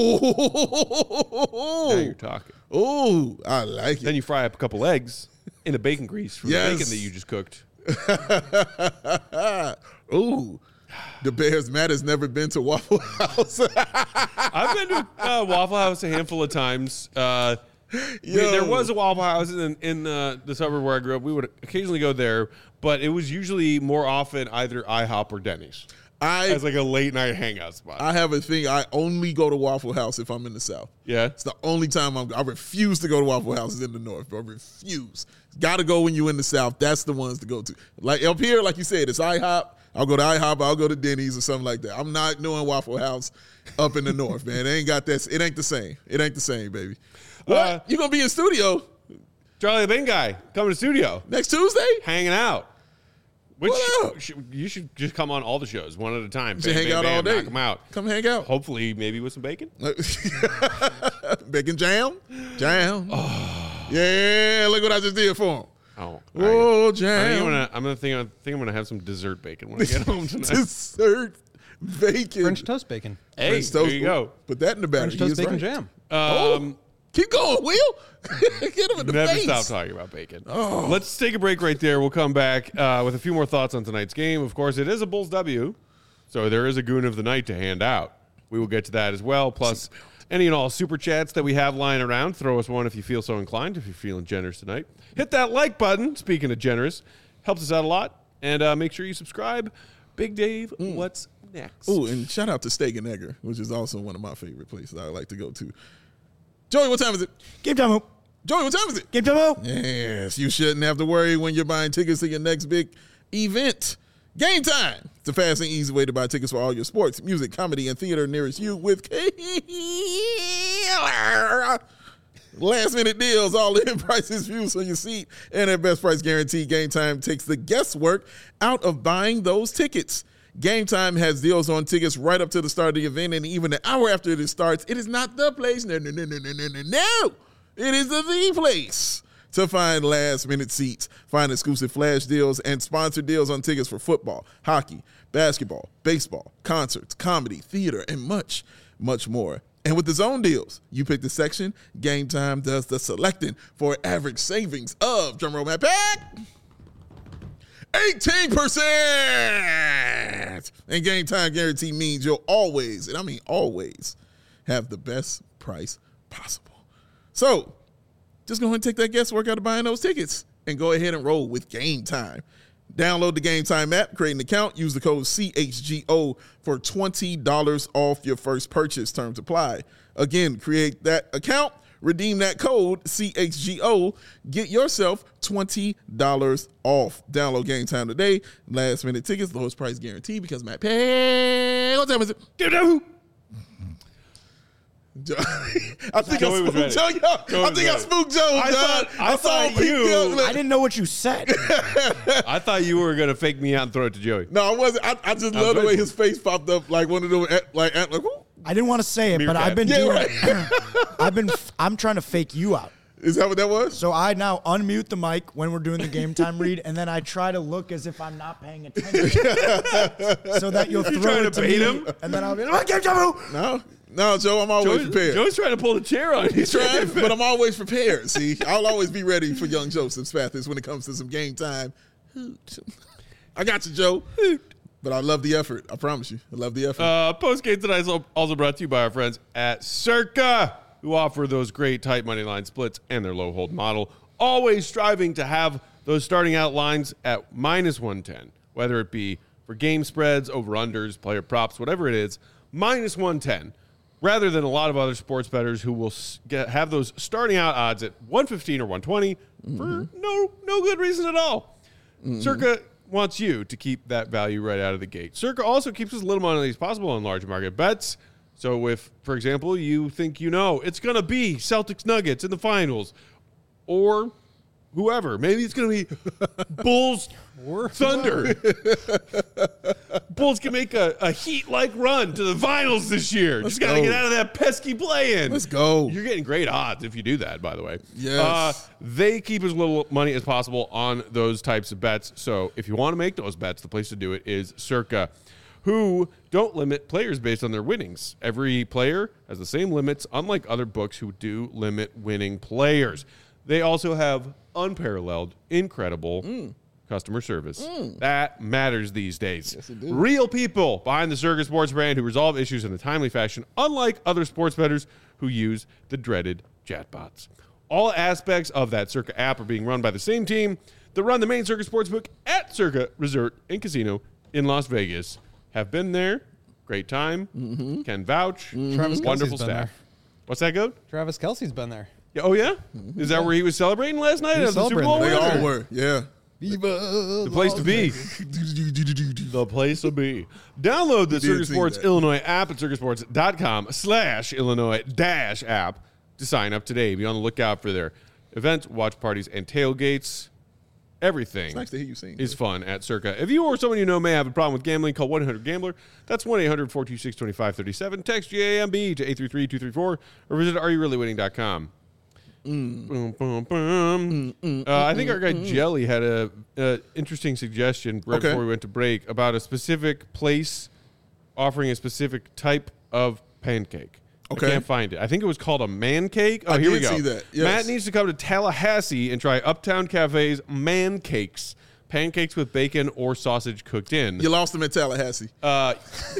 Oh, Now you're talking. oh, I like Then it. you fry up a couple eggs in the bacon grease from Yes. the bacon that you just cooked. Ooh, the Bears Matt has never been to Waffle House. I've been to uh, Waffle House a handful of times. Uh, we- Yo. there was a Waffle House in, in uh, the suburb where I grew up. We would occasionally go there, but it was usually more often either IHOP or Denny's I as like a late night hangout spot. I have a thing. I only go to Waffle House if I'm in the South. yeah. It's the only time I'm, I refuse to go to Waffle Houses in the North. I refuse. Got to go when you're in the South. That's the ones to go to. Like up here, like you said, it's IHOP. I'll go to IHOP. I'll go to Denny's or something like that. I'm not doing Waffle House up in the North, man. They ain't got that. It ain't the same. It ain't the same, baby. What? Uh, you gonna be in studio Charlie the Bacon Guy coming to studio, next Tuesday? hanging out. Which What up? sh- you should just come on all the shows one at a time. Should hang out all day. Knock 'em out. Come hang out. Hopefully, maybe with some bacon. Bacon jam, jam. Oh. Yeah, look what I just did for him. Oh, Oh, I, I think I'm jam. gonna. I'm gonna think. I think I'm gonna have some dessert bacon when I get home tonight. Dessert bacon. French toast bacon. Hey, French there toast. you go. Put that in the battery. French toast He is bacon right. jam. Um, Keep going, Will. Get him in the Never face. stop talking about bacon. Let's take a break right there. We'll come back uh, with a few more thoughts on tonight's game. Of course, it is a Bulls W, so there is a goon of the night to hand out. We will get to that as well. Plus, any and all super chats that we have lying around. Throw us one if you feel so inclined, if you're feeling generous tonight. Hit that like button, speaking of generous. Helps us out a lot. And uh, make sure you subscribe. Big Dave, what's next? Oh, and shout out to Steak and Egger, which is also one of my favorite places I like to go to. Joey, what time is it? Game time. Hoop. Joey, what time is it? Game time. Hoop. Yes, you shouldn't have to worry when you're buying tickets to your next big event. Game Time. It's a fast and easy way to buy tickets for all your sports, music, comedy, and theater nearest you with killer last minute deals, all in prices, views on your seat, and at best price guarantee. Game Time takes the guesswork out of buying those tickets. Game Time has deals on tickets right up to the start of the event, and even an hour after it starts. It is not the place. No, no, no, no, no, no, no, no. It is the, the place to find last minute seats, find exclusive flash deals, and sponsored deals on tickets for football, hockey, basketball, baseball, concerts, comedy, theater, and much, much more. And with the zone deals, you pick the section. Game Time does the selecting for average savings of, drumroll Matt Pack, eighteen percent. And Game Time guarantee means you'll always, and I mean always, have the best price possible. So, just go ahead and take that guesswork out of buying those tickets and go ahead and roll with Game Time. Download the Game Time app, create an account, use the code C H G O for twenty dollars off your first purchase. Terms apply. Again, create that account, redeem that code C H G O, get yourself twenty dollars off. Download Game Time today. Last minute tickets, lowest price guarantee because Matt Pay. What time is it? Joe, I think Joey I was spooked ready. Joe. Yo, Joey I was think I ready. spooked Joe. I dog. thought- I saw thought him pick you- me up, look. I didn't know what you said. I thought you were gonna fake me out and throw it to Joey. No, I wasn't. I, I just I love the was way ready. his face popped up like one of them, eh, like, eh, like whoo. I didn't want to say it, but Meerkat. I've been Yeah, doing. right. I've been. I'm trying to fake you out. Is that what that was? So I now unmute the mic when we're doing the game time read, and then I try to look as if I'm not paying attention, so that you'll throw trying it to to bait me, him? and then I'll be like, "Game time!" No, no, Joe. I'm always Joey's, prepared. Joey's trying to pull the chair on you. He's trying, but I'm always prepared. See, I'll always be ready for young Joseph Spathis when it comes to some game time. Hoot. I got you, Joe. Hoot. But I love the effort. I promise you, I love the effort. Uh, Post game tonight is also brought to you by our friends at Circa, who offer those great tight money line splits and their low hold model. Always striving to have those starting out lines at minus one ten, whether it be for game spreads, over unders, player props, whatever it is, minus one ten, rather than a lot of other sports bettors who will s- get, have those starting out odds at one fifteen or one twenty mm-hmm. for no no good reason at all. Mm-hmm. Circa wants you to keep that value right out of the gate. Circa also keeps as little money as possible on large market bets. So if, for example, you think you know it's going to be Celtics Nuggets in the finals or whoever, maybe it's going to be Bulls Or Thunder. Bulls can make a, a Heat-like run to the finals this year. Let's Just got to go. get out of that pesky play-in. Let's go. You're getting great odds if you do that, by the way. Yes. Uh, they keep as little money as possible on those types of bets. So if you want to make those bets, the place to do it is Circa, who don't limit players based on their winnings. Every player has the same limits, unlike other books who do limit winning players. They also have unparalleled, incredible Mm. customer service. That matters these days. Yes, it do. Real people behind the Circa Sports brand who resolve issues in a timely fashion, unlike other sports bettors who use the dreaded chatbots. All aspects of that Circa app are being run by the same team that run the main Circa Sportsbook at Circa Resort and Casino in Las Vegas. Have been there. Great time. Mm-hmm. Can vouch. Travis Kelce's Wonderful been staff. there. What's that, Goat? Travis Kelsey's been there. Yeah, oh, yeah? Is that where he was celebrating last night? He was at the Super Bowl celebrating. They win, all or- were. Yeah. The place to be. The place to be. Download the did Circa see Sports that. Illinois app at circasports.com slash Illinois dash app to sign up today. Be on the lookout for their events, watch parties, and tailgates. Everything It's nice to hear you sing. is fun at Circa. If you or someone you know may have a problem with gambling, call one eight hundred gambler. That's one eight hundred four two six two five three seven. Text G A M B to eight three three two three four or visit are you really winning dot com. Mm. Boom, boom, boom. uh, I think our guy Jelly had a, a interesting suggestion right Okay. before we went to break about a specific place offering a specific type of pancake. Okay. I can't find it. I think it was called a man cake. Oh, I here we did go. see that, yes. Matt needs to come to Tallahassee and try Uptown Cafe's man cakes. Pancakes with bacon or sausage cooked in. You lost them at Tallahassee. Uh,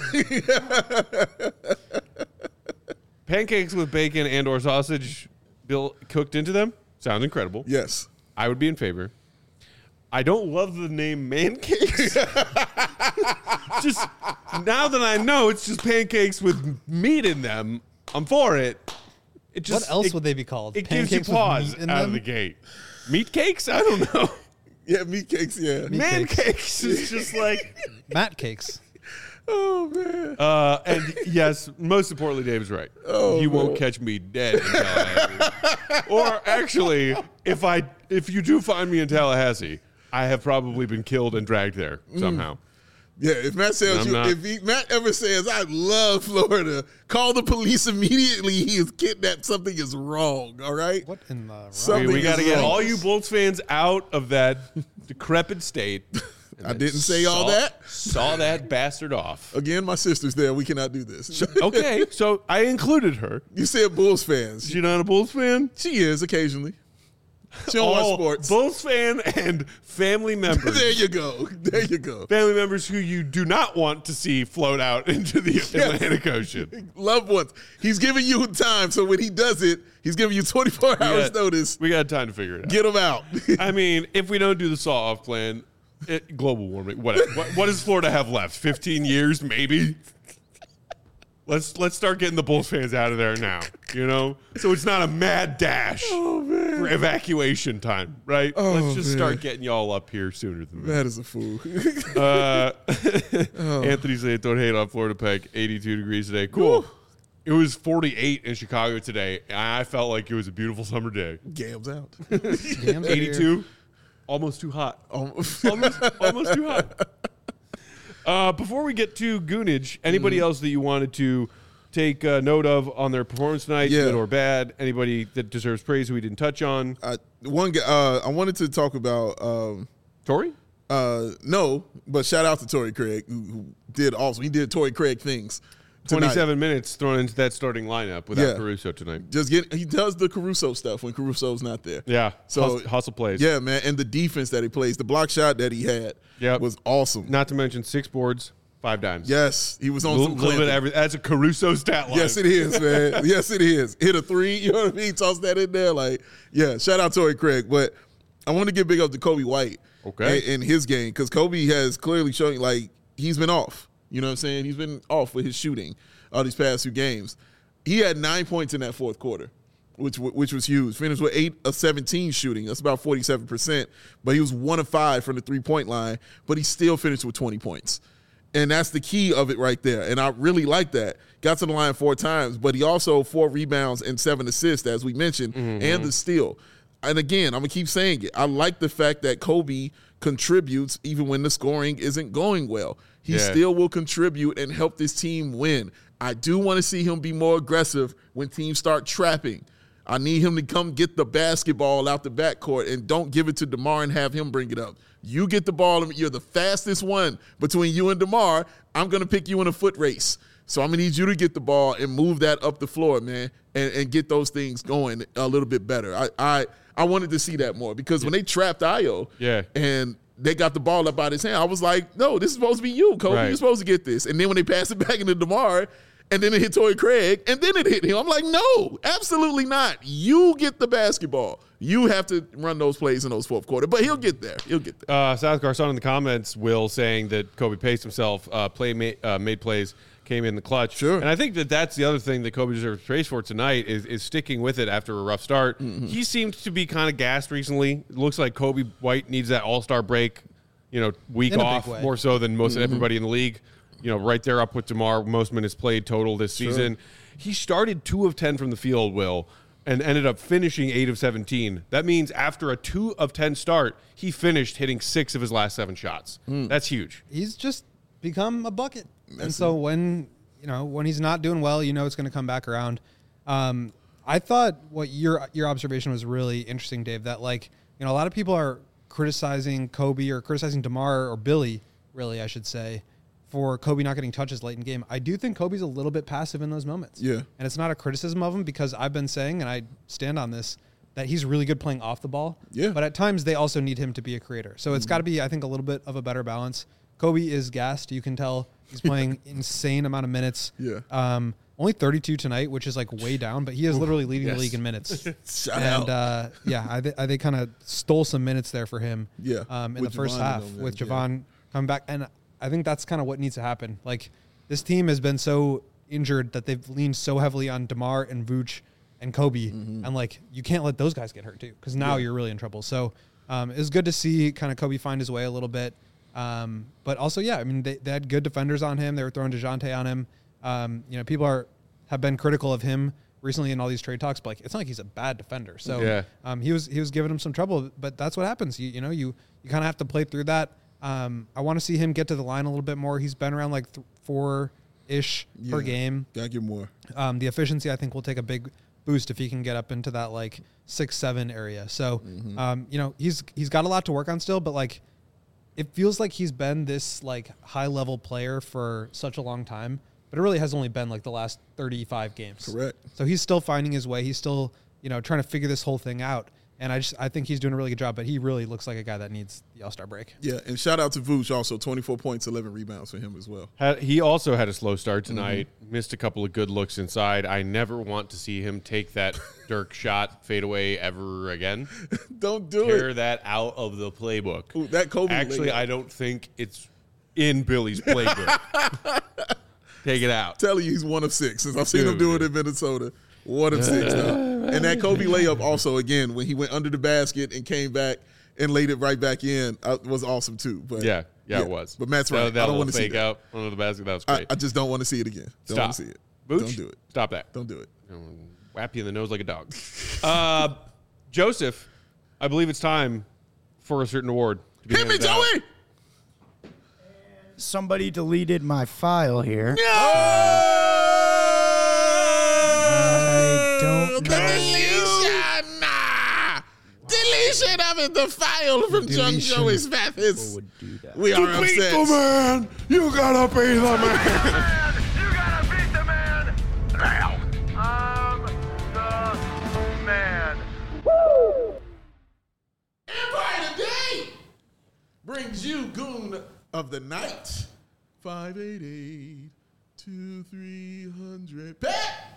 pancakes with bacon and or sausage bill cooked into them. Sounds incredible. Yes. I would be in favor. I don't love the name man cakes. Just now that I know it's just pancakes with meat in them, I'm for it. It just What else it, would they be called? It gives you Pancakes with pause meat in out them? of the gate. Meat cakes? I don't know. Yeah, meat cakes. Yeah. Meat Man cakes. cakes is just like. Matt cakes. Oh man. Uh, and yes, most importantly, Dave is right. Oh, you won't man. catch me dead in Tallahassee. Or actually, if I if you do find me in Tallahassee, I have probably been killed and dragged there somehow. Yeah, if Matt tells I'm you, not- if he, Matt ever says, I love Florida, call the police immediately. He is kidnapped. Something is wrong. All right. What in the So- I mean, we Something got to is get wrong. all you Bolts fans out of that decrepit state. And I then didn't say all saw- that. Saw that bastard off. Again, my sister's there. We cannot do this. Okay, so I included her. You said Bulls fans. Is she not a Bulls fan? She is occasionally. She don't All watch sports. Bulls fan and family members. There you go. There you go. Family members who you do not want to see float out into the Atlantic Ocean. Loved ones. He's giving you time, so when he does it, he's giving you twenty-four hours got- notice. We got time to figure it out. Get him out. I mean, if we don't do the saw-off plan, it, global warming, what, what, what does Florida have left? fifteen years, maybe? Let's let's start getting the Bulls fans out of there now, you know? So it's not a mad dash for evacuation time, right? Oh, let's just man. start getting y'all up here sooner than that. That is a fool. Uh, Oh. Anthony saying, don't hate on Florida Peg, eighty-two degrees today. Cool. It was forty-eight in Chicago today. And I felt like it was a beautiful summer day. Gams out. Gams are eighty-two, here. almost too hot. Almost. almost, almost too hot. Uh, before we get to Goonage, anybody else that you wanted to take uh, note of on their performance tonight, Yeah. good or bad? Anybody that deserves praise who we didn't touch on? I, one, guy- uh, I wanted to talk about. Um, Tori? uh, no, but shout out to Torrey Craig, who, who did also. He did Torrey Craig things. tonight. twenty-seven minutes thrown into that starting lineup without Yeah. Caruso tonight. Just get. He does the Caruso stuff when Caruso's not there. Yeah. So hustle, hustle plays. Yeah, man, and the defense that he plays, the block shot that he had, Yep. was awesome. Not to mention six boards, five dimes. Yes, he was on A little, some little bit Clinton. of every, that's a Caruso stat line. Yes, it is, man. Yes, it is. Hit a three, you know what I mean? Toss that in there. Like, yeah, shout out Torrey Craig. But I want to give big up to Kobe White Okay. in, in his game because Kobe has clearly shown, like, he's been off. You know what I'm saying? He's been off with his shooting all these past few games. He had nine points in that fourth quarter, which which was huge. Finished with eight of seventeen shooting. That's about forty-seven percent. But he was one of five from the three-point line, but he still finished with twenty points. And that's the key of it right there. And I really like that. Got to the line four times, but he also four rebounds and seven assists, as we mentioned, Mm-hmm. and the steal. And again, I'm going to keep saying it. I like the fact that Kobe contributes even when the scoring isn't going well. He Yeah. still will contribute and help this team win. I do want to see him be more aggressive when teams start trapping. I need him to come get the basketball out the backcourt and don't give it to DeMar and have him bring it up. You get the ball, and you're the fastest one between you and DeMar. I'm going to pick you in a foot race. So I'm going to need you to get the ball and move that up the floor, man, and, and get those things going a little bit better. I, I I wanted to see that more because when they trapped Ayo Yeah. and they got the ball up out his hand, I was like, no, this is supposed to be you, Kobe. Right. You're supposed to get this. And then when they passed it back into DeMar, and then it hit Torrey Craig, and then it hit him, I'm like, no, absolutely not. You get the basketball. You have to run those plays in those fourth quarter. But he'll get there. He'll get there. Uh, South Garcon in the comments, Will, saying that Kobe paced himself, uh, play ma- uh, made plays, came in the clutch. Sure. And I think that that's the other thing that Kobe deserves praise for tonight is, is sticking with it after a rough start. Mm-hmm. He seemed to be kind of gassed recently. It looks like Kobe White needs that all-star break, you know, week In a big off, way. more so than most Mm-hmm. everybody in the league. You know, right there up with DeMar, most minutes played total this season. He started two of ten from the field, Will, and ended up finishing eight of seventeen. That means after a two of ten start, he finished hitting six of his last seven shots. Hmm. That's huge. He's just become a bucket. and so when, you know, when he's not doing well, you know it's going to come back around. Um, I thought what your your observation was really interesting, Dave, that like, you know, a lot of people are criticizing Kobe or criticizing DeMar or Billy, really, I should say, for Kobe not getting touches late in game. I do think Kobe's a little bit passive in those moments. Yeah. And it's not a criticism of him because I've been saying, and I stand on this, that he's really good playing off the ball. Yeah. But at times they also need him to be a creator. So it's got to be, I think, a little bit of a better balance. Kobe is gassed. You can tell he's playing insane amount of minutes. Yeah. Um, only thirty-two tonight, which is like way down, but he is literally leading yes. the league in minutes. Shout and out. uh, yeah, I, th- I they kind of stole some minutes there for him. Yeah. Um, in With the first Javon half and them, with yeah. Javon coming back, and I think that's kind of what needs to happen. Like this team has been so injured that they've leaned so heavily on DeMar and Vooch and Kobe, Mm-hmm. and like you can't let those guys get hurt too, because now you're really in trouble. So um, it was good to see kind of Kobe find his way a little bit. Um, but also, yeah, I mean they, they had good defenders on him. They were throwing DeJounte on him. Um, you know, people are have been critical of him recently in all these trade talks, but like it's not like he's a bad defender. So Yeah. um, he was he was giving him some trouble, but that's what happens. You you know you you kind of have to play through that. Um, I want to see him get to the line a little bit more. He's been around like th- four ish per Yeah. game. Gotta get more. Um, the efficiency I think will take a big boost if he can get up into that like six seven area. So Mm-hmm. um, you know he's he's got a lot to work on still, but like it feels like he's been this like high level player for such a long time, but it really has only been like the last thirty-five games. Correct. So he's still finding his way. He's still, you know, trying to figure this whole thing out. And I just I think he's doing a really good job, but he really looks like a guy that needs the All-Star break. Yeah, and shout out to Vooch also, twenty-four points, eleven rebounds for him as well. Had, he also had a slow start Mm-hmm. tonight, missed a couple of good looks inside. I never want to see him take that Dirk shot fadeaway ever again. Don't do Tear it. that out of the playbook. Ooh, that Kobe Actually, layup. I don't think it's in Billy's playbook. Take it out. Telling you he's one of six since I've seen him Dude. do it in Minnesota. One of six now. And that Kobe layup also, again, when he went under the basket and came back and laid it right back in, uh, was awesome too. But Yeah, yeah, it was. But Matt's That- right. that I don't little want to see fake that. out under the basket. That was I, great. I just don't want to see it again. Don't want Stop. to see it. Booch, Don't do it. Stop that. Don't do it. I'll whap you in the nose like a dog. uh, Joseph, I believe it's time for a certain award. To be Hit me, handed out. Joey! Somebody deleted my file here. No! I don't know. Deletion! Nah! Deletion of it, the file from Young Deletion. Joey's Mathis. Would do that. We are To beat upset. the man, you gotta be the man. You gotta beat the man now. I'm the man. Empire Today brings you Goon of the Night. five eight eight, two three hundred. Pat!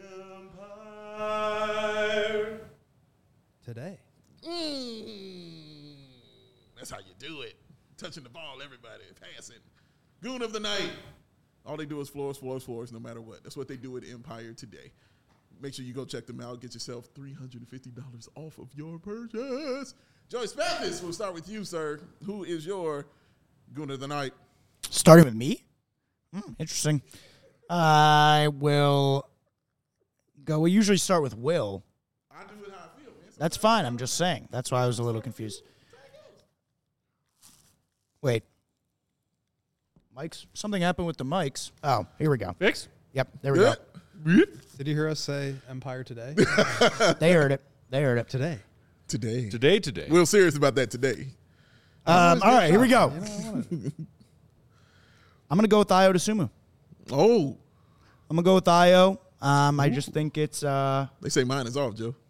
Empire. Today. Mm, that's how you do it. Touching the ball, everybody. Passing. Goon of the Night. All they do is floors, floors, floors, no matter what. That's what they do at Empire Today. Make sure you go check them out. Get yourself three hundred fifty dollars off of your purchase. Joey Spathis, we'll start with you, sir. Who is your Goon of the Night? Starting with me? Hmm, interesting. I will go. We usually start with Will. I do it how I feel, man. That's fine. I'm just saying. That's why I was a little confused. Wait. Mics? Something happened with the mics. Oh, here we go. Fix? Yep, there we Good. go. Did you hear us say Empire Today? They heard it. They heard it. Today. Today. Today, today. We're serious about that today. Um, all right, here we go. You know, I wanna- I'm going to go with Io DeSumo. Oh, I'm going to go with Io. Um, I just think it's uh, they say mine is off, Joe.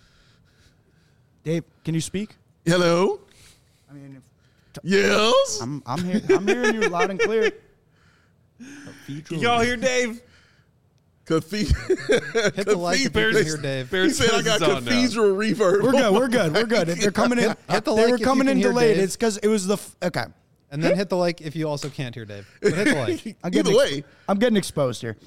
Dave, can you speak? Hello? I mean, if, Yes? I'm I'm here. I'm hearing you loud and clear. Can y'all hear Dave? Cathedral. Hit the like if you can hear Dave. He said I got Bears on now. cathedral reverb. We're good. We're good. We're good. If they're coming in, Hit the they like were if you coming can in hear delayed. Dave. It's because it was the f- okay. And then hit the like if you also can't hear Dave. But hit the like. I'm getting Either ex- way. I'm getting exposed here.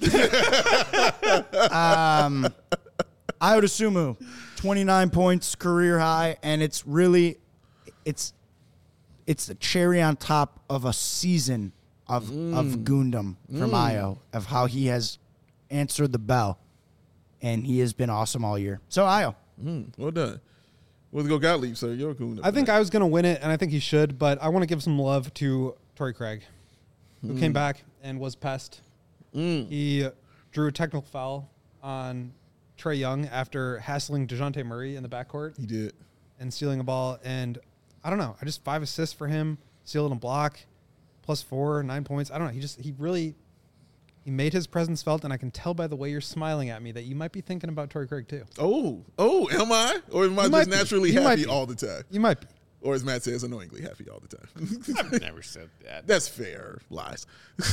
um, Io DeSumo, twenty-nine points, career high, and it's really, it's, it's the cherry on top of a season of of Gundam from Io, of how he has answered the bell, and he has been awesome all year. So Io, Mm, well done. We'll go Gottlieb, sir. You're cool. I think I was going to win it, and I think he should, but I want to give some love to Torrey Craig, who came back and was pest. He drew a technical foul on Trae Young after hassling DeJounte Murray in the backcourt He did. and stealing a ball. And I don't know. I just five assists for him, stealing a block, plus four, nine points. I don't know. He just, he really, he made his presence felt, and I can tell by the way you're smiling at me that you might be thinking about Torrey Craig too. Oh, oh, am I? Or am I You might just be. naturally You might happy be. all the time? You might be. Or as Matt says, annoyingly happy all the time. I've never said that. That's fair. Lies.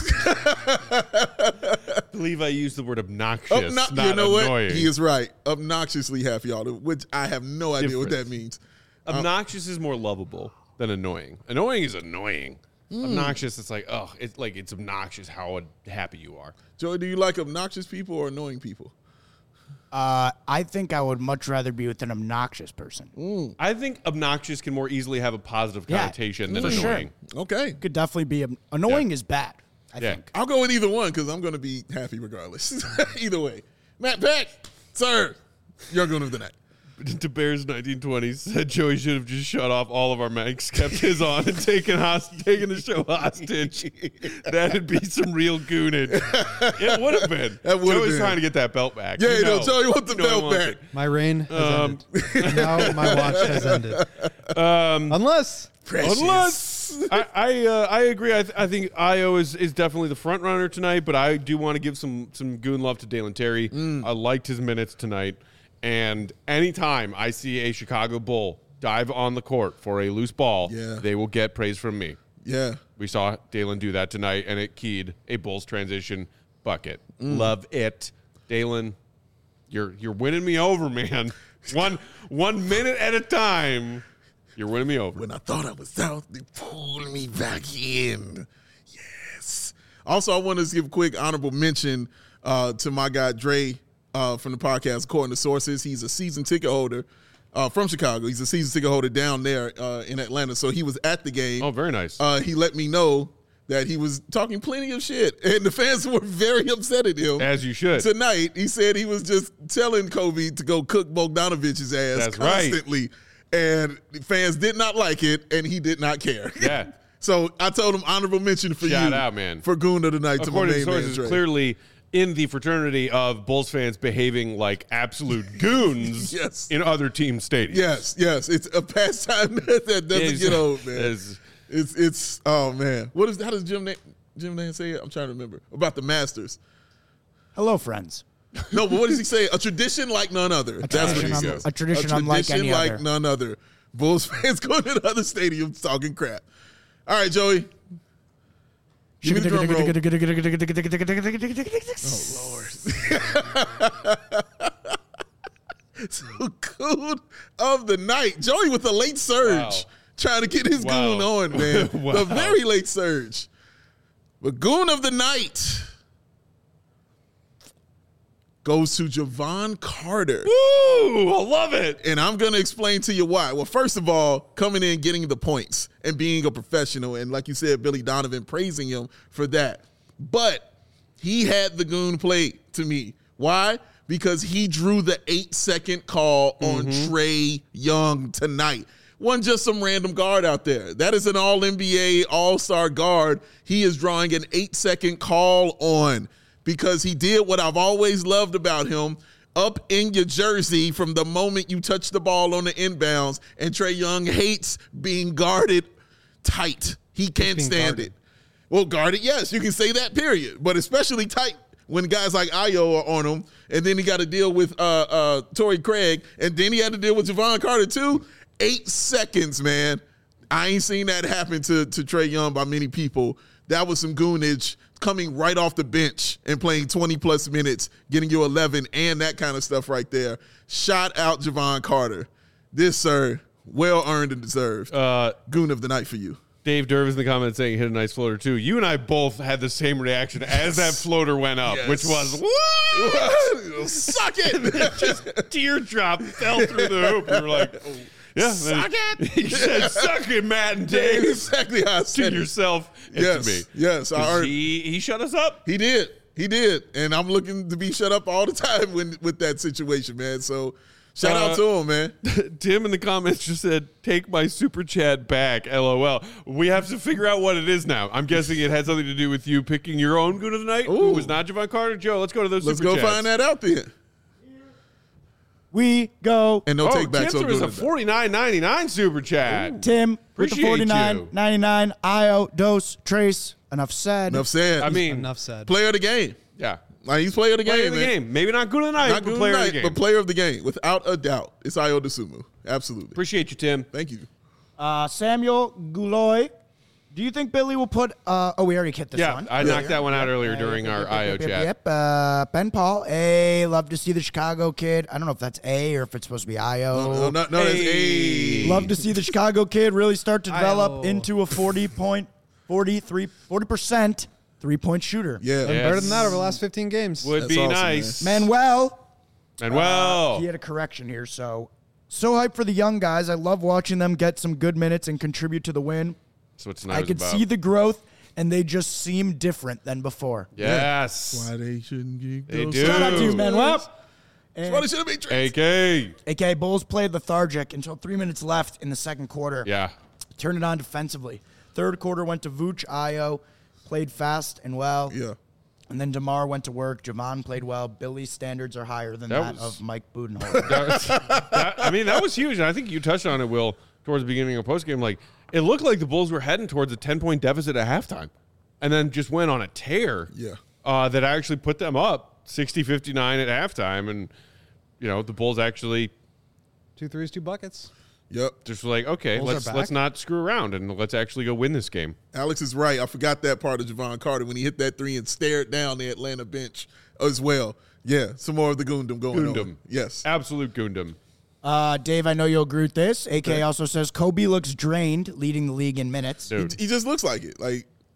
I believe I used the word obnoxious, Obno- not you know annoying. what? He is right. Obnoxiously happy all the which I have no idea what that Difference. means. Obnoxious is more lovable than annoying. Annoying is annoying. Obnoxious, it's like, oh, it's like it's obnoxious how happy you are. Joey, do you like obnoxious people or annoying people? uh, I think I would much rather be with an obnoxious person. I think obnoxious can more easily have a positive Yeah, connotation than for sure. annoying. Okay. Could definitely be ob- annoying Yeah. is bad. I Yeah. think. I'll go with either one because I'm going to be happy regardless. Either way. Matt Peck, sir, you're going of the night. To Bears nineteen twenty said Joey should have just shut off all of our mics, kept his on, and taken host- taken the show hostage. That'd be some real goonage. It would have been. That would've Joey's been. trying to get that belt back. Yeah, You you know, know. Joey, you want the You know he belt wants back. it. My reign has Um, ended. Now my watch has ended. Um, Unless Precious. Unless I I, uh, I agree. I, th- I think Io is, is definitely the front runner tonight, but I do want to give some some goon love to Dalen Terry. I liked his minutes tonight, and anytime I see a Chicago Bull dive on the court for a loose ball, Yeah. they will get praise from me. Yeah. We saw Dalen do that tonight, and it keyed a Bulls transition bucket. Love it, Dalen. You're you're winning me over, man. one one minute at a time. You're winning me over. When I thought I was out, they pulled me back in. Yes. Also, I want to give a quick honorable mention uh, to my guy Dre uh, from the podcast, According to Sources. He's a season ticket holder uh, from Chicago. He's a season ticket holder down there uh, in Atlanta. So he was at the game. Oh, very nice. Uh, he let me know that he was talking plenty of shit, and the fans were very upset at him. As you should. Tonight, he said he was just telling Kobe to go cook Bogdanovich's ass That's right. constantly, and the fans did not like it, and he did not care. Yeah. So I told him honorable mention for Shout you. out, man. For Goon of the Night to my According to main man, sources, Dre. clearly in the fraternity of Bulls fans behaving like absolute goons Yes. in other team stadiums. Yes, yes. It's a pastime that, that doesn't It's- get old, man. it's- It's, it's, oh, man. What is, how does Jim, Na- Jim Nance say it? I'm trying to remember. About the Masters. Hello, friends. No, but what does he say? A tradition like none other. That's what he tradition un- says. a tradition unlike any like other. none other. Bulls fans going to other stadiums talking crap. All right, Joey. Give me the drum roll. So, Goon of the Night. Joey with the late surge. Wow. Trying to get his Wow. Goon on, man. Wow. The very late surge. But Goon of the Night goes to Javon Carter. Woo! I love it. And I'm going to explain to you why. Well, first of all, coming in, getting the points, and being a professional. And like you said, Billy Donovan praising him for that. But he had the Goon play to me. Why? Because he drew the eight-second call on Mm-hmm. Trae Young tonight. Wasn't just some random guard out there. That is an all N B A, all-star guard. He is drawing an eight-second call on because he did what I've always loved about him. Up in your jersey from the moment you touch the ball on the inbounds, and Trae Young hates being guarded tight. He can't being stand guarded. it. Well, guarded, yes, you can say that, period. But especially tight when guys like Ayo are on him, and then he got to deal with uh, uh, Torrey Craig, and then he had to deal with Javon Carter too. Eight seconds, man. I ain't seen that happen to, to Trae Young by many people. That was some goonage coming right off the bench and playing twenty-plus minutes, getting you eleven, and that kind of stuff right there. Shout out Javon Carter. This, sir, well-earned and deserved. Uh, Goon of the Night for you. Dave Dervis in the comments saying hit a nice floater too. You and I both had the same reaction as that floater went up, Yes. which was what? Suck it. Just teardrop fell through the hoop. We were like, yeah, Suck it. He said, "Suck it, Matt and Dave." Exactly how I To said it. yourself and Yes, to me. yes. I 'Cause earned- he he shut us up. He did. He did. And I'm looking to be shut up all the time when with that situation, man. So shout Uh, out to him, man. Tim in the comments just said, "Take my super chat back." L O L. We have to figure out what it is now. I'm guessing it had something to do with you picking your own Goon of the Night, who Ooh. was not Javon Carter. Joe, let's go to those Let's super go chats. find that out then. We go. And no Oh, take back. Tim So threw us good. a forty-nine ninety-nine super chat. Tim with the Appreciate forty-nine you. ninety-nine. Io, Dose, Trace. Enough said. Enough said. I mean, Enough said. player of the game. yeah. Like he's player of the Player game, of the man. game. Maybe not Goon of the Night, Not but good player night, of the game. but player of the game, without a doubt. It's Ayo Dosunmu. Absolutely. Appreciate you, Tim. Thank you. Uh, Samuel Guloy. Do you think Billy will put? Uh, oh, we already hit this Yeah, one. I Yeah. knocked that one out earlier during Yep, our yep, I O yep, yep, chat. Yep. Uh, Ben Paul. A. Love to see the Chicago kid. I don't know if that's A or if it's supposed to be I O. No, no, no, that's Hey. a Love to see the Chicago kid really start to develop Io. into a forty point, forty-three, forty percent three point shooter. Yeah. Been Yes. better than that over the last fifteen games. Would That's be awesome, nice. Manuel. And well, He had a correction here. So, so hyped for the young guys. I love watching them get some good minutes and contribute to the win. that's what I tonight's could about. see the growth, and they just seem different than before. Yes. Why they shouldn't get They those do. Shout out to you, Dude. Manuel. That's why they should have been A trades. K. A K A Bulls played lethargic until three minutes left in the second quarter. Yeah. Turned it on defensively. Third quarter went to Vooch, Io, played fast and well. Yeah. And then DeMar went to work. Javon played well. Billy's standards are higher than That that, was- of Mike Budenholzer. That was- that- I mean, that was huge. And I think you touched on it, Will, towards the beginning of postgame. Like, it looked like the Bulls were heading towards a ten-point deficit at halftime and then just went on a tear Yeah. uh, that actually put them up sixty fifty-nine at halftime. And, you know, the Bulls actually Two threes, two buckets. Yep. just were like, okay, Bulls are let's back. let's not screw around and let's actually go win this game. Alex is right. I forgot that part of Javon Carter when he hit that three and stared down the Atlanta bench as well. Yeah, some more of the Goondom going Goondom. on. Yes. Absolute goondom. uh, Dave, I know you'll agree with this. A K also says Kobe looks drained, leading the league in minutes. Dude. He just looks like it. Like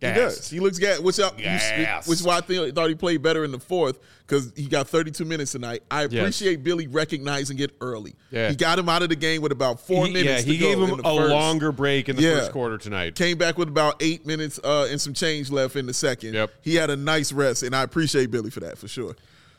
Gas. He does. He looks gas, which, I, Gas. which is why I think, thought he played better in the fourth because he got thirty-two minutes tonight. I Yes. appreciate Billy recognizing it early. Yeah. He got him out of the game with about four He- minutes yeah, he to go gave him in the a first. longer break in the Yeah. first quarter tonight. Came back with about eight minutes uh, and some change left in the second. Yep. He had a nice rest, and I appreciate Billy for that, for sure.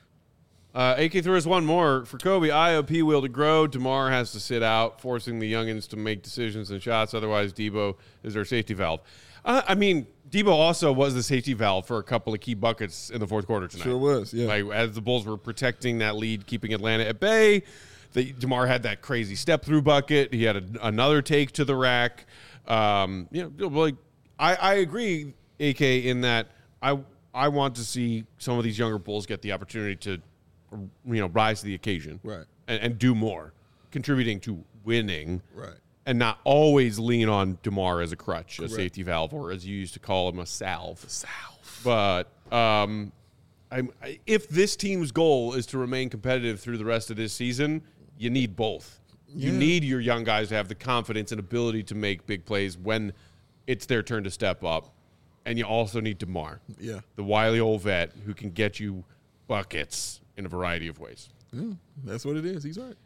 Uh, A K threw us one more. For Kobe, I O P will to grow. DeMar has to sit out, forcing the youngins to make decisions and shots. Otherwise, Debo is their safety valve. Uh, I mean, Debo also was the safety valve for a couple of key buckets in the fourth quarter tonight. Sure was, yeah. Like, as the Bulls were protecting that lead, keeping Atlanta at bay, the, DeMar had that crazy step-through bucket. He had a, another take to the rack. Um, you know, like I, I agree, A K, in that I I want to see some of these younger Bulls get the opportunity to you know, rise to the occasion, Right. and, and do more, contributing to winning, Right. and not always lean on DeMar as a crutch, a safety valve, or as you used to call him, a salve. Salve. But um, I'm, I, if this team's goal is to remain competitive through the rest of this season, you need both. You Yeah. need your young guys to have the confidence and ability to make big plays when it's their turn to step up, and you also need DeMar, Yeah. the wily old vet who can get you buckets in a variety of ways. Yeah, that's what it is. He's right.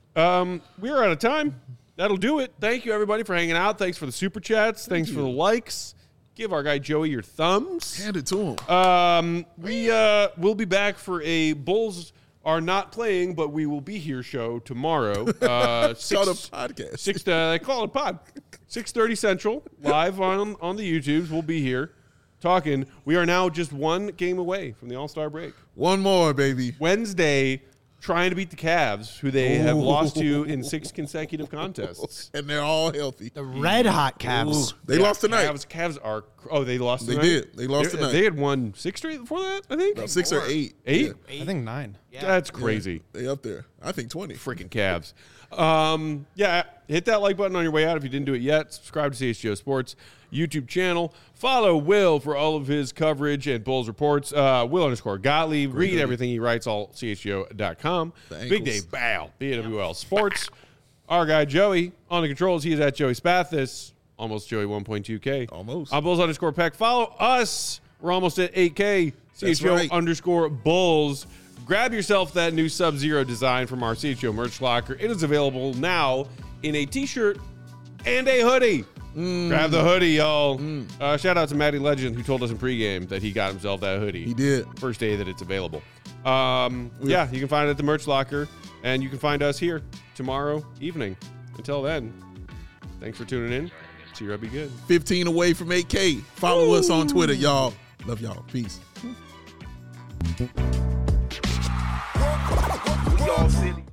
Um, we're out of time. That'll do it. Thank you, everybody, for hanging out. Thanks for the super chats. Thanks for the likes. Give our guy Joey your thumbs. Hand it to him. Um, we uh, will be back for a Bulls are not playing, but we will be here show tomorrow. Uh, six, Called a podcast. Six. Uh, they call it a pod. Six thirty Central, live on on the YouTubes. We'll be here talking. We are now just one game away from the All Star break. One more, baby. Wednesday, trying to beat the Cavs, who they have Ooh. lost to in six consecutive contests. And they're all healthy. The red hot Cavs. They Yeah, lost tonight. Cavs, Cavs are. Oh, they lost. They tonight? did. They lost They- tonight. They had won six straight before that. I think About six or eight. Eight? Yeah, I think nine. That's crazy. they up there. I think twenty. Freaking Cavs. Um, yeah, hit that like button on your way out if you didn't do it yet. Subscribe to C H G O Sports YouTube channel. Follow Will for all of his coverage and Bulls reports. Uh, Will underscore Gottlieb. Read everything he writes, all C H G O dot com. The Big ankles. Day Bow, B W L Sports. Our guy Joey on the controls. He is at Joey Spathis. Almost Joey one point two K. Almost. On Bulls underscore Peck. Follow us. We're almost at eight K. C H G O right. underscore Bulls. Grab yourself that new Sub-Zero design from our C H G O merch locker. It is available now in a t-shirt and a hoodie. Grab the hoodie, y'all. Uh, shout out to Matty Legend, who told us in pregame that he got himself that hoodie. He did. First day that it's available. Um, yeah, you can find it at the merch locker, and you can find us here tomorrow evening. Until then, thanks for tuning in. See you, be good. fifteen away from eight K. Follow us on Twitter, y'all. Love y'all. Peace. We all city.